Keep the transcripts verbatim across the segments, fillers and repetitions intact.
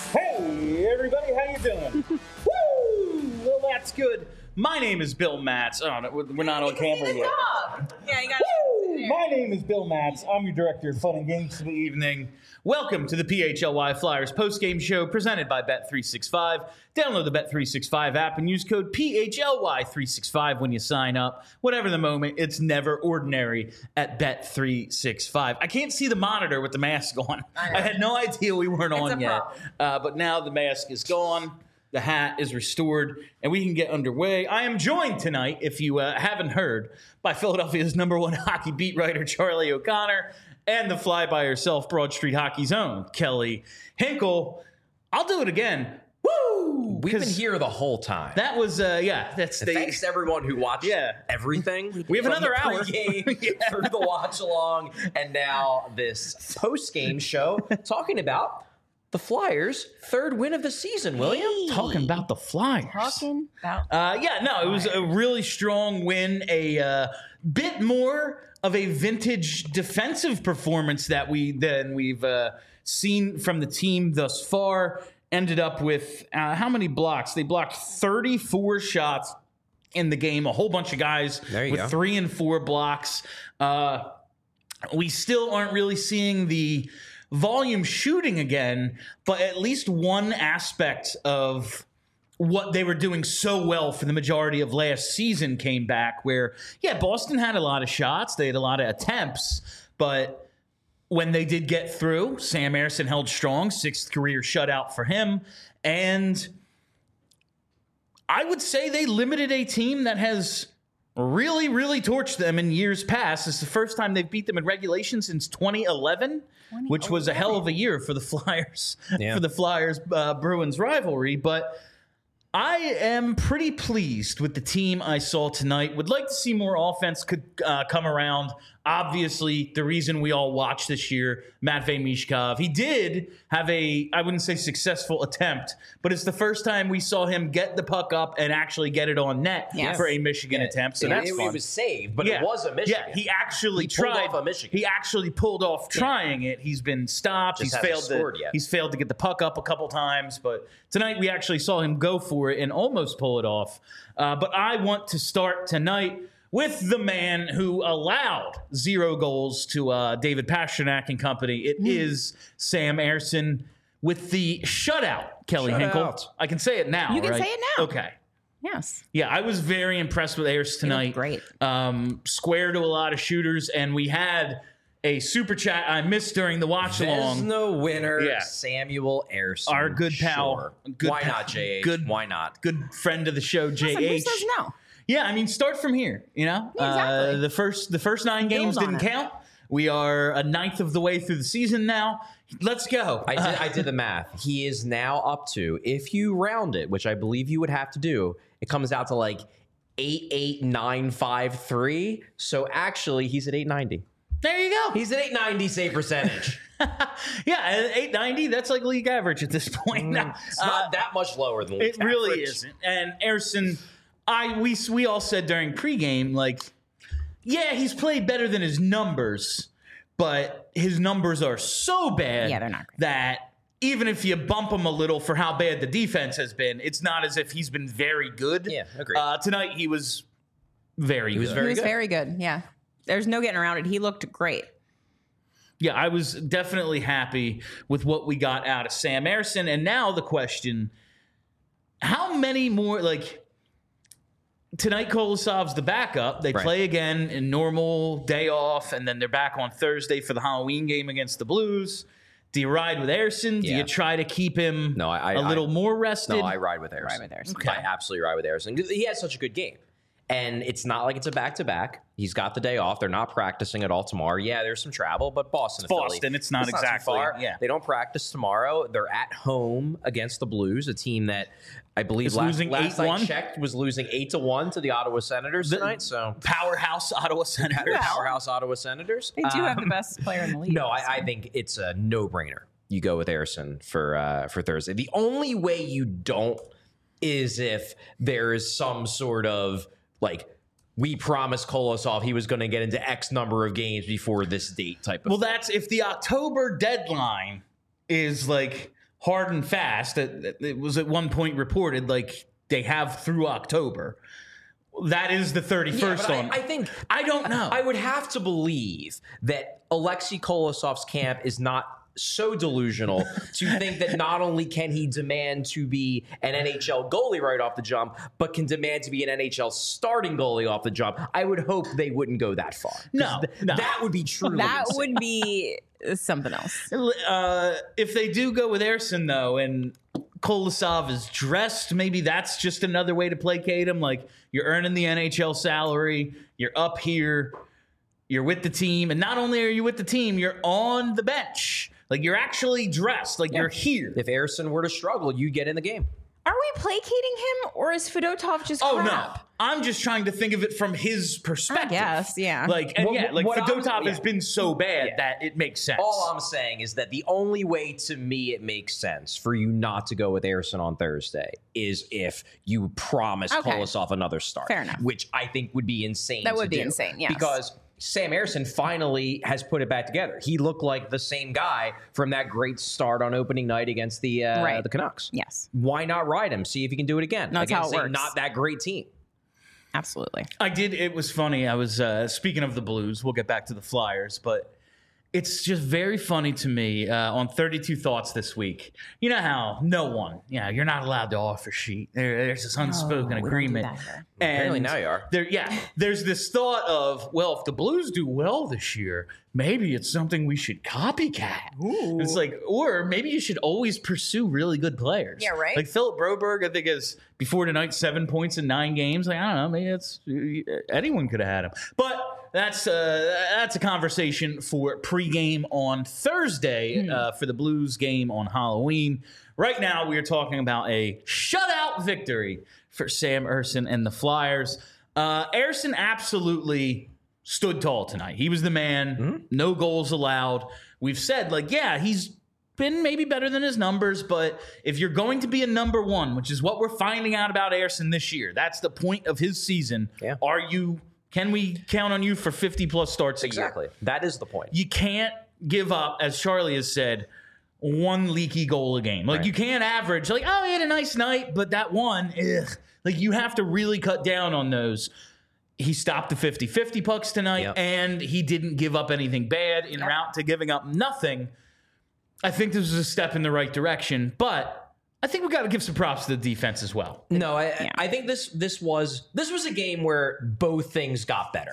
Hey, everybody, how you doing? Woo! Well, that's good. My name is Bill Matz. Oh, no, we're not on camera yet. Yeah, you got Woo! My name is Bill Matz. I'm your director of fun and games for the evening. Welcome to the P H L Y Flyers postgame show presented by Bet three sixty-five. Download the Bet three sixty-five app and use code P H L Y three sixty-five when you sign up. Whatever the moment, it's never ordinary at Bet three sixty-five. I can't see the monitor with the mask on. I, I had no idea we weren't It's on a yet. Uh, but now the mask is gone. The hat is restored, and we can get underway. I am joined tonight, if you uh, haven't heard, by Philadelphia's number one hockey beat writer, Charlie O'Connor, and the fly-by-herself Broad Street Hockey's own, Kelly Hinkle. I'll do it again. Woo! We've been here the whole time. That was, uh, yeah, that's the... Thanks to everyone who watched Yeah. everything. We have from another the hour. Pregame Yeah. through the watch-along, and now this post-game show talking about the Flyers' third win of the season, William. Talking about the Flyers. Talking about Uh, yeah, no, it was a really strong win. A uh, bit more of a vintage defensive performance that we than we've uh, seen from the team thus far. Ended up with uh, how many blocks? They blocked thirty-four shots in the game. A whole bunch of guys There you with go. three and four blocks. Uh, we still aren't really seeing the volume shooting again, but at least one aspect of what they were doing so well for the majority of last season came back where, yeah, Boston had a lot of shots. They had a lot of attempts, but when they did get through, Sam Ersson held strong, sixth career shutout for him. And I would say they limited a team that has really, really torched them in years past. It's the first time they've beat them in regulation since twenty eleven, which was a hell of a year for the Flyers, Yeah. for the Flyers uh, Bruins rivalry. But I am pretty pleased with the team I saw tonight. Would like to see more offense could uh, come around. Obviously, the reason we all watched this year, Matvei Mishkov, he did have a, I wouldn't say successful attempt, but it's the first time we saw him get the puck up and actually get it on net Yes. for a Michigan attempt. So it, that's it, fun. it was saved, but Yeah. it was a Michigan. Yeah, he actually He pulled tried. off a Michigan. He actually pulled off trying it. He's been stopped. Just he's hasn't failed scored to. yet. He's failed to get the puck up a couple times, but tonight we actually saw him go for it and almost pull it off. Uh, but I want to start tonight with the man who allowed zero goals to uh, David Pastrnak and company. It is Sam Ersson with the shutout. Kelly Shutout. Hinkle. I can say it now. You can right? say it now. Okay. yes. Yeah, I was very impressed with Ayers tonight. great. Um, square to a lot of shooters, and we had a super chat I missed during the watch along. Vesna winner, Yeah. Samuel Ersson. Our good pal. Sure. Good Why pal. not, J H? Good- Why not? Good friend of the show, J H. Listen, who says no? Yeah, I mean, start from here. You know, Yeah, exactly. uh, the first the first nine games Build on didn't it. count. We are a ninth of the way through the season now. Let's go. I did, I did the math. He is now up to, if you round it, which I believe you would have to do, it comes out to like eight eight nine five three. So actually, he's at eight ninety. There you go. He's at eight ninety save percentage. Yeah, eight ninety. That's like league average at this point. Mm, It's not that much lower than league It really average. isn't. And Ersson, I we we all said during pregame, like, yeah, he's played better than his numbers, but his numbers are so bad Yeah, they're not great. that even if you bump him a little for how bad the defense has been, it's not as if he's been very good. Yeah, agreed. Uh, tonight he was very was good. very He was good. very good. Yeah. There's no getting around it. He looked great. Yeah, I was definitely happy with what we got out of Sam Ersson. And now the question, how many more, like, tonight Kolosov's the backup. They Right. play again in normal day off, and then they're back on Thursday for the Halloween game against the Blues. Do you ride with Ersson? Do Yeah. you try to keep him No, I- a I- little more rested? No, I ride with Ersson. Ride with Ersson. Okay. I absolutely ride with Ersson. He has such a good game. And it's not like it's a back-to-back. He's got the day off. They're not practicing at all tomorrow. Yeah, there's some travel, but Boston, It's Boston. Philly, It's not too exactly- far. yeah. They don't practice tomorrow. They're at home against the Blues, a team that I believe Is last, losing last eight I one? checked was losing eight to one to the Ottawa Senators The- tonight. So Powerhouse Ottawa Senators. powerhouse Ottawa Senators. They do have the Um, best player in the league. No, I, I think it's a no-brainer. You go with Ersson for uh, for Thursday. The only way you don't is if there is some sort of like, we promised Kolosov he was going to get into X number of games before this date type of Well, thing. that's if the October deadline is like hard and fast. It, it was at one point reported like they have through October. That is the thirty-first Yeah, but on. I, I think I don't know. I would have to believe that Alexei Kolosov's camp is not so delusional to think that not only can he demand to be an N H L goalie right off the jump, but can demand to be an N H L starting goalie off the jump. I would hope they wouldn't go that far. 'Cause No, th- no. that would be truly That insane. would be something else. Uh, if they do go with Ersson, though, and Kolosov is dressed, maybe that's just another way to placate him. Like, you're earning the N H L salary, you're up here, you're with the team, and not only are you with the team, you're on the bench. Like, you're actually dressed, like you're here. If Ersson were to struggle, you get in the game. Are we placating him, or is Fedotov just Oh, crap? no. I'm just trying to think of it from his perspective. guess, yeah. Like, and What- yeah, like what I'm- Fedotov has yeah. been so bad Yeah. that it makes sense. All I'm saying is that the only way to me it makes sense for you not to go with Ersson on Thursday is if you promise Okay. Kolosov another start. Fair enough. Which I think would be insane. That to would be do. insane, yes. Because Sam Ersson finally has put it back together. He looked like the same guy from that great start on opening night against the uh, Right. the Canucks. Yes, Why not ride him? See if he can do it again That's how against it a works. not that great team. absolutely. I did. It was funny. I was uh, speaking of the Blues. We'll get back to the Flyers, but it's just very funny to me uh, on thirty-two Thoughts this week. You know how no one, yeah, you're not allowed to offer sheet. There, there's this unspoken Oh, we don't do agreement. that here. Apparently And now you are. There, yeah, there's this thought of, well, if the Blues do well this year, maybe it's something we should copycat. It's like, or maybe you should always pursue really good players. Yeah, right. Like Philip Broberg, I think is before tonight seven points in nine games. Like, I don't know, maybe it's anyone could have had him, but. That's uh, that's a conversation for pregame on Thursday uh, for the Blues game on Halloween. Right now, we are talking about a shutout victory for Sam Ersson and the Flyers. Uh, Ersson absolutely stood tall tonight. He was the man. No goals allowed. We've said, like, yeah, he's been maybe better than his numbers, but if you're going to be a number one, which is what we're finding out about Ersson this year, that's the point of his season. Yeah. Are you? Can we count on you for fifty plus starts a year? Exactly. That is the point. You can't give up, as Charlie has said, one leaky goal a game. Like, Right. you can't average, like, oh, he had a nice night, but that one, ugh. Like, you have to really cut down on those. He stopped the fifty-fifty pucks tonight, Yep. and he didn't give up anything bad en route to giving up nothing. I think this was a step in the right direction, but I think we got to give some props to the defense as well. No, I, I think this this was this was a game where both things got better.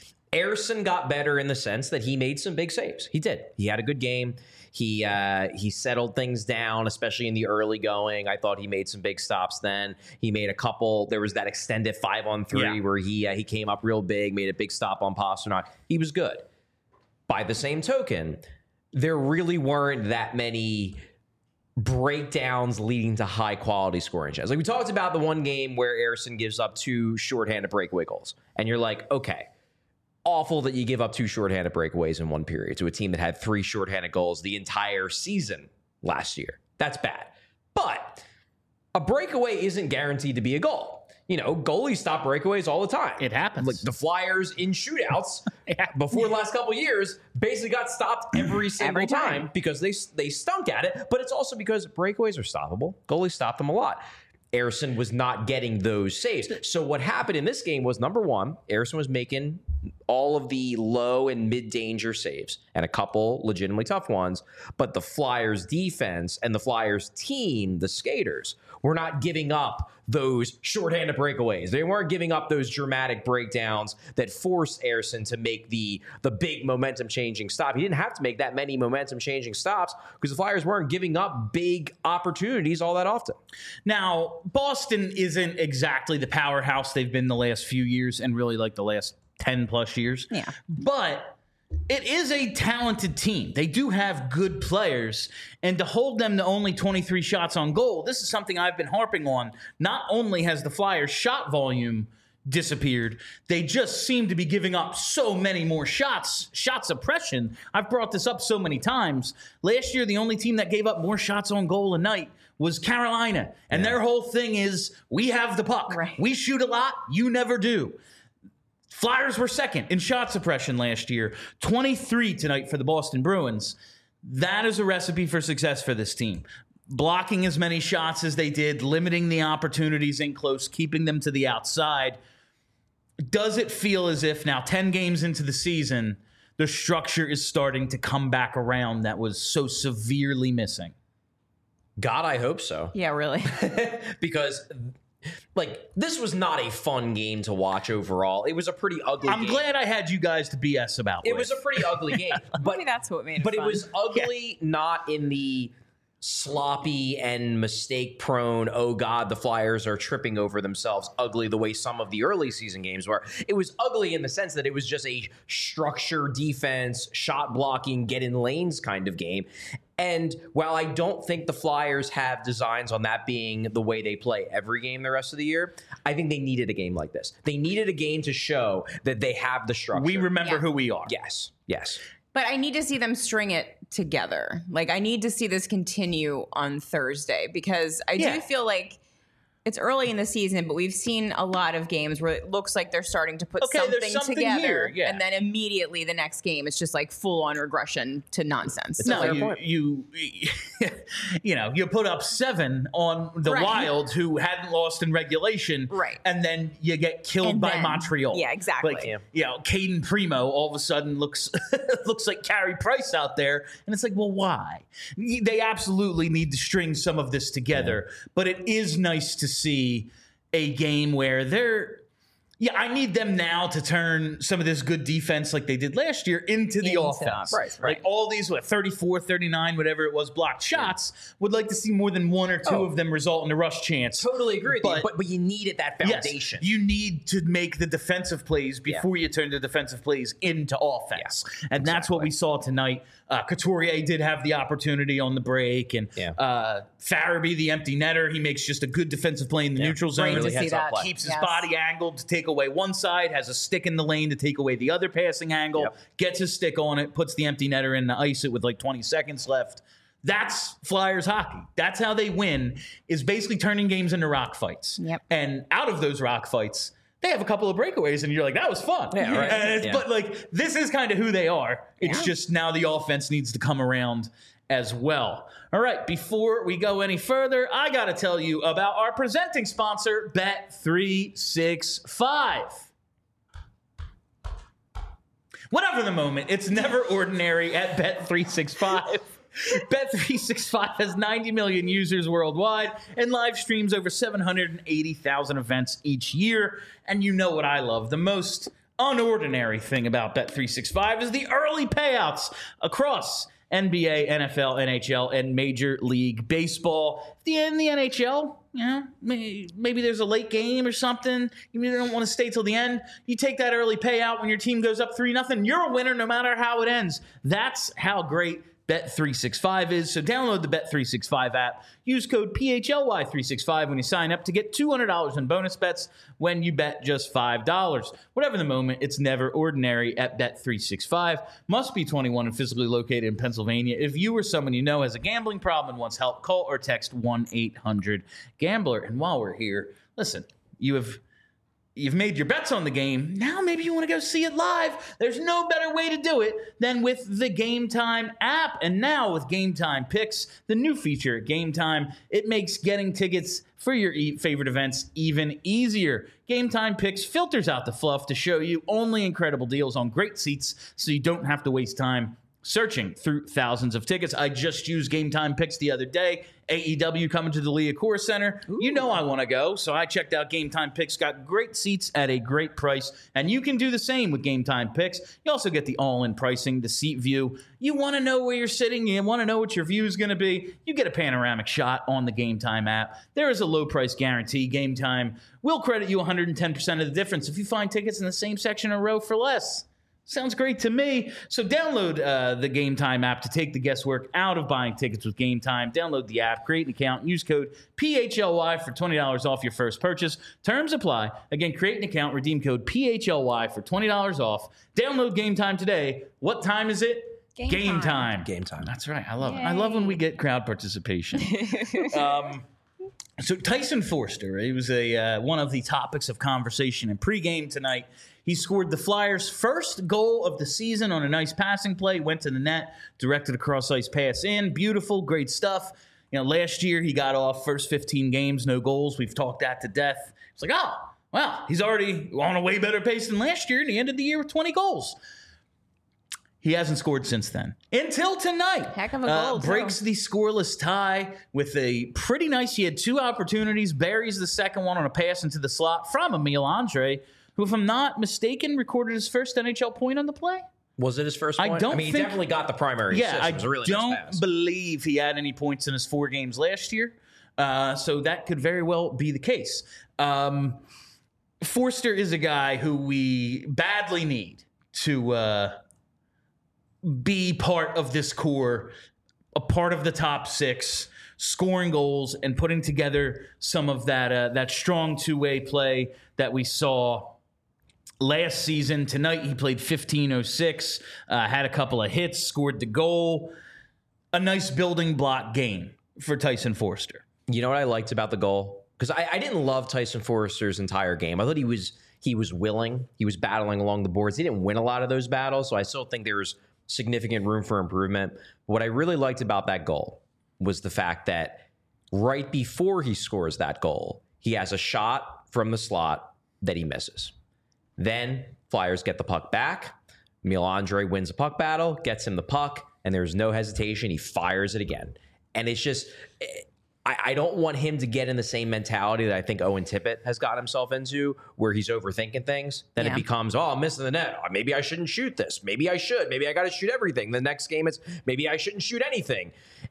Ersson got better in the sense that he made some big saves. He did. He had a good game. He uh, he settled things down, especially in the early going. I thought he made some big stops then. He made a couple. There was that extended five on three Yeah. where he uh, he came up real big, made a big stop on Pasternak. He was good. By the same token, there really weren't that many breakdowns leading to high quality scoring chances. Like we talked about the one game where Ersson gives up two shorthanded breakaway goals, and you're like, okay, awful that you give up two shorthanded breakaways in one period to a team that had three shorthanded goals the entire season last year. That's bad. But a breakaway isn't guaranteed to be a goal. You know, goalies stop breakaways all the time. It happens. Like the Flyers in shootouts before the last couple of years basically got stopped every single Every time. time. because they they stunk at it. But it's also because breakaways are stoppable. Goalies stopped them a lot. Ersson was not getting those saves. So what happened in this game was, number one, Ersson was making all of the low and mid-danger saves and a couple legitimately tough ones. But the Flyers defense and the Flyers team, the skaters, were not giving up those shorthanded breakaways. They weren't giving up those dramatic breakdowns that forced Ersson to make the, the big momentum-changing stop. He didn't have to make that many momentum-changing stops because the Flyers weren't giving up big opportunities all that often. Now, Boston isn't exactly the powerhouse they've been the last few years and really like the last ten plus years. Yeah. But it is a talented team. They do have good players. And to hold them to only twenty-three shots on goal, this is something I've been harping on. Not only has the Flyers' shot volume disappeared, they just seem to be giving up so many more shots. Shot suppression. I've brought this up so many times. Last year, the only team that gave up more shots on goal a night was Carolina. And their whole thing is, we have the puck. Right. We shoot a lot. You never do. Flyers were second in shot suppression last year. twenty-three tonight for the Boston Bruins. That is a recipe for success for this team. blocking as many shots as they did, limiting the opportunities in close, keeping them to the outside. Does it feel as if now, ten games into the season, the structure is starting to come back around that was so severely missing? God, I hope so. Yeah, really. Because, like, this was not a fun game to watch overall. It was a pretty ugly I'm game. glad I had you guys to B S about It with. was a pretty ugly game. But Maybe that's what made it But fun. it was ugly, not in the sloppy and mistake prone, oh God, the Flyers are tripping over themselves, ugly the way some of the early season games were. It was ugly in the sense that it was just a structure defense, shot blocking, get in lanes kind of game. And while I don't think the Flyers have designs on that being the way they play every game the rest of the year, I think they needed a game like this. They needed a game to show that they have the structure. We remember Yeah. who we are. Yes, yes. But I need to see them string it together. Like, I need to see this continue on Thursday because I Yeah. do feel like it's early in the season, but we've seen a lot of games where it looks like they're starting to put Okay, there's something, something together. here, yeah. And then immediately the next game, it's just like full on regression to nonsense. It's a No, fair you, point. you, you know, you put up seven on the Right. Wild, who hadn't lost in regulation, Right. And then you get killed And by then- Montreal. yeah, exactly. Like, Yeah. you know, Caden Primo all of a sudden looks looks like Carey Price out there, and it's like, well, why? They absolutely need to string some of this together, but it is nice to see a game where they're. Yeah, I need them now to turn some of this good defense like they did last year into the Into offense. offense, Like all these, what, thirty-four, thirty-nine, whatever it was, blocked shots, would like to see more than one or two Oh. of them result in a rush chance. Totally agree with But- you. But, but you needed that Yes, foundation. you need to make the defensive plays before you turn the defensive plays into offense. And that's what we saw tonight. Uh, Couturier did have the opportunity on the break, and Yeah. uh, Farabee, the empty netter, he makes just a good defensive play in the neutral zone. Great to Really see heads up that. play. Keeps his Yes. body angled to take away one side, has a stick in the lane to take away the other passing angle, Yep. gets his stick on it, puts the empty netter in to ice it with like twenty seconds left. That's Flyers hockey. That's how they win, is basically turning games into rock fights. Yep. And out of those rock fights, they have a couple of breakaways, and you're like, that was fun. Yeah, right. And it's, Yeah. But like, this is kind of who they are. It's Yeah. just now the offense needs to come around as well. All right, before we go any further, I got to tell you about our presenting sponsor, Bet three sixty-five. Whatever the moment, it's never ordinary at Bet three sixty-five. Bet three sixty-five has ninety million users worldwide and live streams over seven hundred eighty thousand events each year. And you know what I love the most unordinary thing about Bet three sixty-five is the early payouts across N B A, N F L, N H L, and Major League Baseball. The in the N H L, you know, maybe, maybe there's a late game or something. You don't want to stay till the end. You take that early payout when your team goes up three nothing. You're a winner no matter how it ends. That's how great Bet three sixty-five is. So download the Bet three sixty-five app. Use code P H L Y three sixty-five when you sign up to get two hundred dollars in bonus bets when you bet just five dollars. Whatever the moment, it's never ordinary at Bet three sixty-five. Must be twenty-one and physically located in Pennsylvania. If you or someone you know has a gambling problem and wants help, call or text one eight hundred gambler. And while we're here, listen, you have... You've made your bets on the game. Now maybe you want to go see it live. There's no better way to do it than with the Game Time app. And now with Game Time Picks, the new feature at Game Time, it makes getting tickets for your e- favorite events even easier. Game Time Picks filters out the fluff to show you only incredible deals on great seats so you don't have to waste time searching through thousands of tickets. I just used Game Time Picks the other day. A E W coming to the Liacouras Center. Ooh. You know I want to go, so I checked out Game Time Picks. Got great seats at a great price, and you can do the same with Game Time Picks. You also get the all-in pricing, the seat view. You want to know where you're sitting. You want to know what your view is going to be. You get a panoramic shot on the Game Time app. There is a low price guarantee. Game Time will credit you one hundred ten percent of the difference if you find tickets in the same section or row for less. Sounds great to me. So download uh, the Game Time app to take the guesswork out of buying tickets with Game Time. Download the app, create an account, and use code P H L Y for twenty dollars off your first purchase. Terms apply. Again, create an account, redeem code P H L Y for twenty dollars off. Download Game Time today. What time is it? Game Game time. time. Game time. That's right. I love it. I love when we get crowd participation. um, so Tyson Forster, he was a uh, one of the topics of conversation in pregame tonight. He scored the Flyers' first goal of the season on a nice passing play, went to the net, directed a cross-ice pass in. Beautiful, great stuff. You know, last year he got off first fifteen games, no goals. We've talked that to death. It's like, oh, well, he's already on a way better pace than last year, and he ended the year with twenty goals. He hasn't scored since then. Until tonight. Heck of a goal, uh, too. breaks the scoreless tie with a pretty nice, he had two opportunities, buries the second one on a pass into the slot from Emil Andre, who, if I'm not mistaken, recorded his first N H L point on the play. Was it his first I point? don't I mean, he think- definitely got the primary Yeah, assist. I It was a really nice don't pass. believe he had any points in his four games last year. Uh, so that could very well be the case. Um, Forster is a guy who we badly need to uh, be part of this core, a part of the top six, scoring goals and putting together some of that uh, that strong two-way play that we saw last season. Tonight he played fifteen oh six, uh, had a couple of hits, scored the goal. A nice building block game for Tyson Forster. You know what I liked about the goal? Because I, I didn't love Tyson Forster's entire game. I thought he was he was willing. He was battling along the boards. He didn't win a lot of those battles, so I still think there was significant room for improvement. What I really liked about that goal was the fact that right before he scores that goal, he has a shot from the slot that he misses. Then Flyers get the puck back. Emil Andre wins a puck battle, gets him the puck, and there's no hesitation. He fires it again. And it's just, I, I don't want him to get in the same mentality that I think Owen Tippett has got himself into, where he's overthinking things. Then Yeah. it becomes, oh, I'm missing the net. Oh, maybe I shouldn't shoot this. Maybe I should. Maybe I got to shoot everything. The next game, it's maybe I shouldn't shoot anything.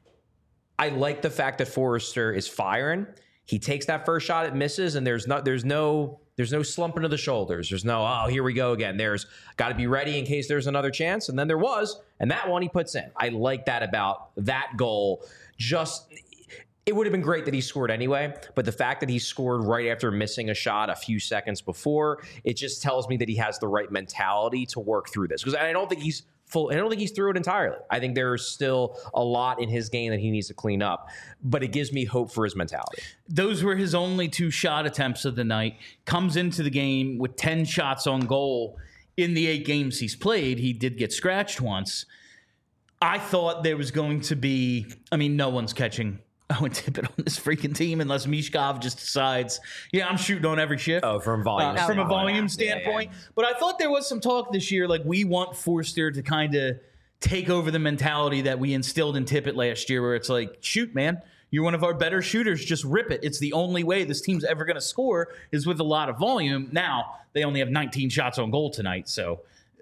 I like the fact that Forrester is firing. He takes that first shot, it misses, and there's not, there's no, there's no slumping of the shoulders. There's no, oh, here we go again. There's got to be ready in case there's another chance. And then there was, and that one he puts in. I like that about that goal. Just, it would have been great that he scored anyway, but the fact that he scored right after missing a shot a few seconds before, it just tells me that he has the right mentality to work through this. Because I don't think he's full, I don't think he's through it entirely. I think there's still a lot in his game that he needs to clean up, but it gives me hope for his mentality. Those were his only two shot attempts of the night. Comes into the game with ten shots on goal. In the eight games he's played, he did get scratched once. I thought there was going to be, I mean, no one's catching Owen Tippett on this freaking team unless Mishkov just decides, yeah, I'm shooting on every shift. Oh, from volume. Uh, from a standpoint. volume Yeah, yeah, standpoint. yeah. But I thought there was some talk this year, like we want Forster to kind of take over the mentality that we instilled in Tippett last year, where it's like, shoot, man, you're one of our better shooters. Just rip it. It's the only way this team's ever going to score is with a lot of volume. Now, they only have nineteen shots on goal tonight, so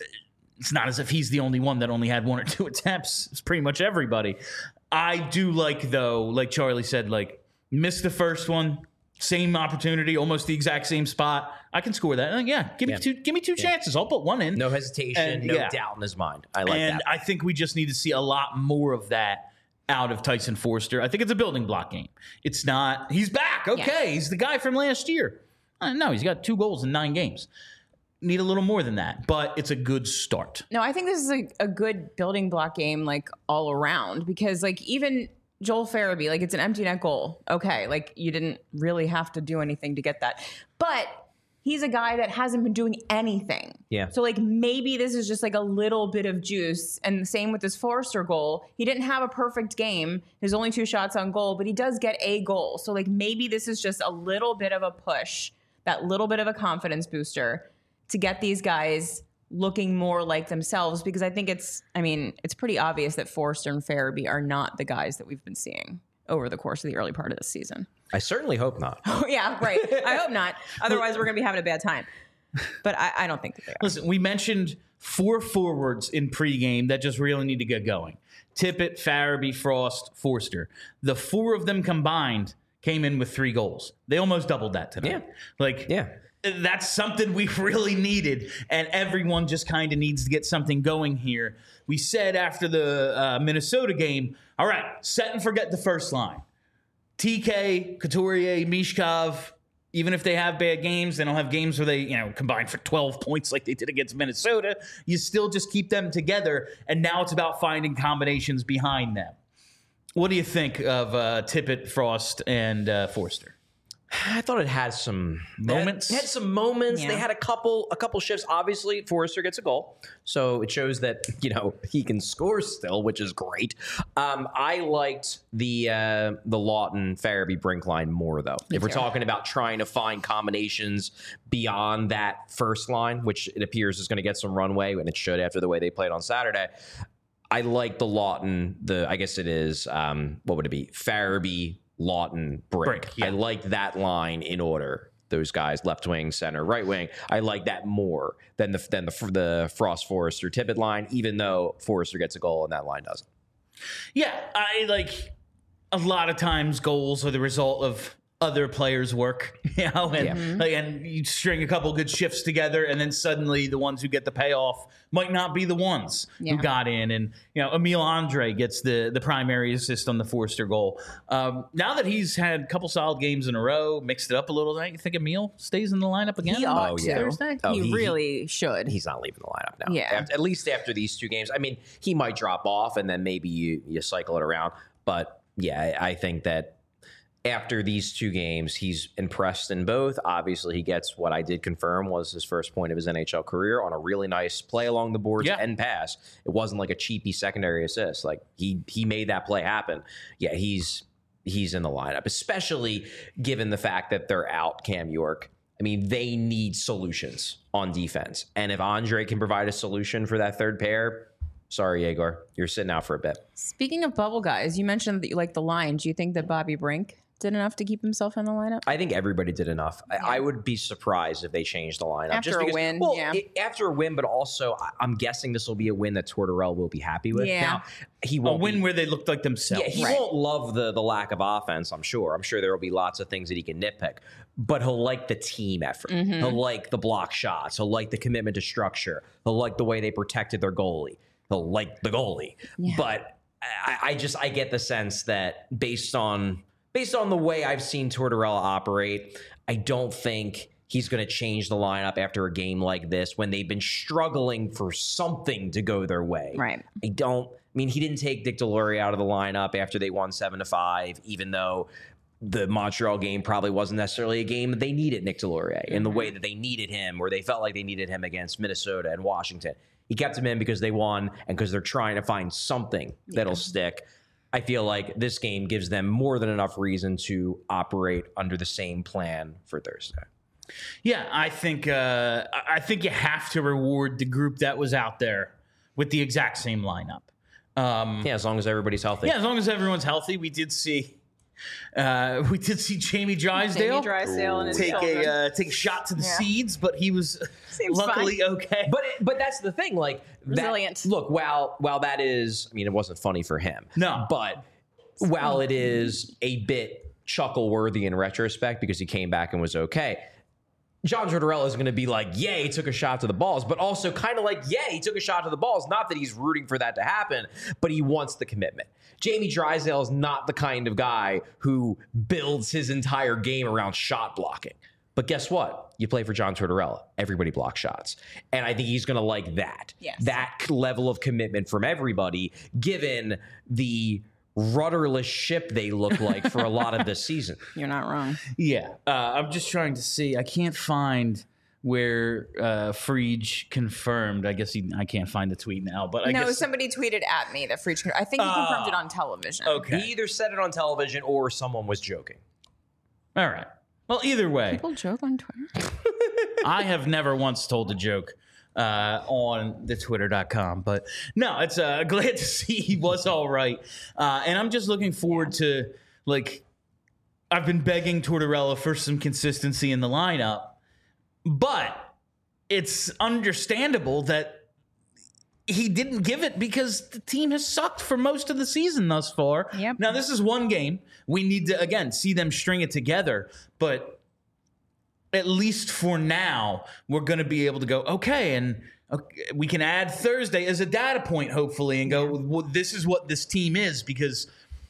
it's not as if he's the only one that only had one or two attempts. It's pretty much everybody. I do like, though, like Charlie said, like, missed the first one, same opportunity, almost the exact same spot. I can score that. Uh, yeah, give me Yeah. two. Give me two chances. I'll put one in. No hesitation, And, no yeah. doubt in his mind. I like and that. I think we just need to see a lot more of that out of Tyson Forster. I think it's a building block game. It's not. He's back. Okay, Yeah. he's the guy from last year. Uh, no, he's got two goals in nine games. Need a little more than that, but it's a good start. No, I think this is a, a good building block game, like all around, because like even Joel Farabee, like it's an empty net goal. Okay, like you didn't really have to do anything to get that, but he's a guy that hasn't been doing anything. Yeah. So like maybe this is just like a little bit of juice, and the same with this Forrester goal. He didn't have a perfect game. His only two shots on goal, but he does get a goal. So like maybe this is just a little bit of a push, that little bit of a confidence booster to get these guys looking more like themselves, because I think it's, I mean, it's pretty obvious that Forrester and Farabee are not the guys that we've been seeing over the course of the early part of the season. I certainly hope not. Oh, yeah, right. I hope not. Otherwise, we're going to be having a bad time. But I, I don't think that they are. Listen, we mentioned four forwards in pregame that just really need to get going. Tippett, Farabee, Frost, Forster. The four of them combined came in with three goals. They almost doubled that tonight. Yeah. Like, Yeah. that's something we really needed, and everyone just kind of needs to get something going here. We said after the uh, Minnesota game, all right, set and forget the first line. T K, Couturier, Mishkov, even if they have bad games, they don't have games where they, you know, combine for twelve points like they did against Minnesota. You still just keep them together, and now it's about finding combinations behind them. What do you think of uh, Tippett, Frost, and uh, Forster? I thought it had some Moments? It had, it had some moments. Yeah. They had a couple, a couple shifts. Obviously, Forrester gets a goal, so it shows that you know he can score still, which is great. Um, I liked the uh, the Lawton Farabee Brink line more though. Me if we're too. talking about trying to find combinations beyond that first line, which it appears is going to get some runway, and it should after the way they played on Saturday. I like the Lawton. The I guess it is um, what would it be? Farabee. Lawton, Brink. Brink, yeah. I like that line in order. Those guys, left wing, center, right wing. I like that more than the than the the Frost Forrester Tippett line. Even though Forrester gets a goal and that line doesn't. Yeah, I like a lot of times goals are the result of other players' work, you know, and Yeah. like, and you string a couple good shifts together, and then suddenly the ones who get the payoff might not be the ones Yeah. who got in. And you know, Emil Andre gets the the primary assist on the Forster goal. Um, now that he's had a couple solid games in a row, mixed it up a little, don't you think Emil stays in the lineup again? He on ought yeah. to. Thursday? Oh, he, he- really should. He's not leaving the lineup now. Yeah. Af- at least after these two games. I mean, he might drop off and then maybe you you cycle it around. But yeah, I I think that. After these two games, he's impressed in both. Obviously, he gets what I did confirm was his first point of his N H L career on a really nice play along the boards Yeah. and pass. It wasn't like a cheapy secondary assist. Like he he made that play happen. Yeah, he's he's in the lineup, especially given the fact that they're out Cam York. I mean, they need solutions on defense. And if Andre can provide a solution for that third pair, sorry, Yegor, you're sitting out for a bit. Speaking of bubble guys, you mentioned that you like the line. Do you think that Bobby Brink did enough to keep himself in the lineup? I think everybody did enough. I, I would be surprised if they changed the lineup After just a because, win, Well, yeah. it- after a win, but also I, I'm guessing this will be a win that Tortorella will be happy with. Yeah. Now he A won't win be- where they looked like themselves. Yeah, he Right. won't love the the lack of offense. I'm sure. I'm sure there will be lots of things that he can nitpick, but he'll like the team effort. Mm-hmm. He'll like the block shots. He'll like the commitment to structure. He'll like the way they protected their goalie. He'll like the goalie. Yeah. But I, I just I get the sense that based on based on the way I've seen Tortorella operate, I don't think he's going to change the lineup after a game like this when they've been struggling for something to go their way. Right. I don't. I mean, he didn't take Dick Delory out of the lineup after they won seven to five, even though the Montreal game probably wasn't necessarily a game that they needed Nick Delory in the way that they needed him, or they felt like they needed him against Minnesota and Washington. He kept him in because they won and because they're trying to find something that'll stick. I feel like this game gives them more than enough reason to operate under the same plan for Thursday. Yeah, I think uh, I I think you have to reward the group that was out there with the exact same lineup. Um, Yeah, as long as everybody's healthy. yeah, as long as everyone's healthy. We did see uh, we did see Jamie Drysdale Jamie Drysdale and his take shoulder. a uh, take a shot to the Yeah. seeds, but he was Seems luckily okay. But it, but that's the thing, like that- Resilient. look, while while that is, I mean, it wasn't funny for him. No. but while it is a bit chuckle worthy in retrospect because he came back and was okay, John Tortorella is going to be like, yeah, he took a shot to the balls, but also kind of like, yeah, he took a shot to the balls. Not that he's rooting for that to happen, but he wants the commitment. Jamie Drysdale is not the kind of guy who builds his entire game around shot blocking. But guess what? You play for John Tortorella. Everybody blocks shots. And I think he's going to like that. Yes. That level of commitment from everybody, given the rudderless ship they look like for a lot of this season. You're not wrong. Yeah, uh, I'm just trying to see. I can't find where uh, Frege confirmed. I guess he, I can't find the tweet now, but I no, guess somebody tweeted at me that Frege. I think he confirmed it Oh, on television. okay. He either said it on television or someone was joking. All right. Well, either way, People joke on Twitter. I have never once told a joke uh, on the twitter dot com, but no, it's uh, glad to see he was all right. Uh, and I'm just looking forward to, like, I've been begging Tortorella for some consistency in the lineup, but it's understandable that he didn't give it because the team has sucked for most of the season thus far. Yep. Now, this is one game. We need to, again, see them string it together, but at least for now, we're going to be able to go, okay, and okay, we can add Thursday as a data point, hopefully, and go, well, this is what this team is, because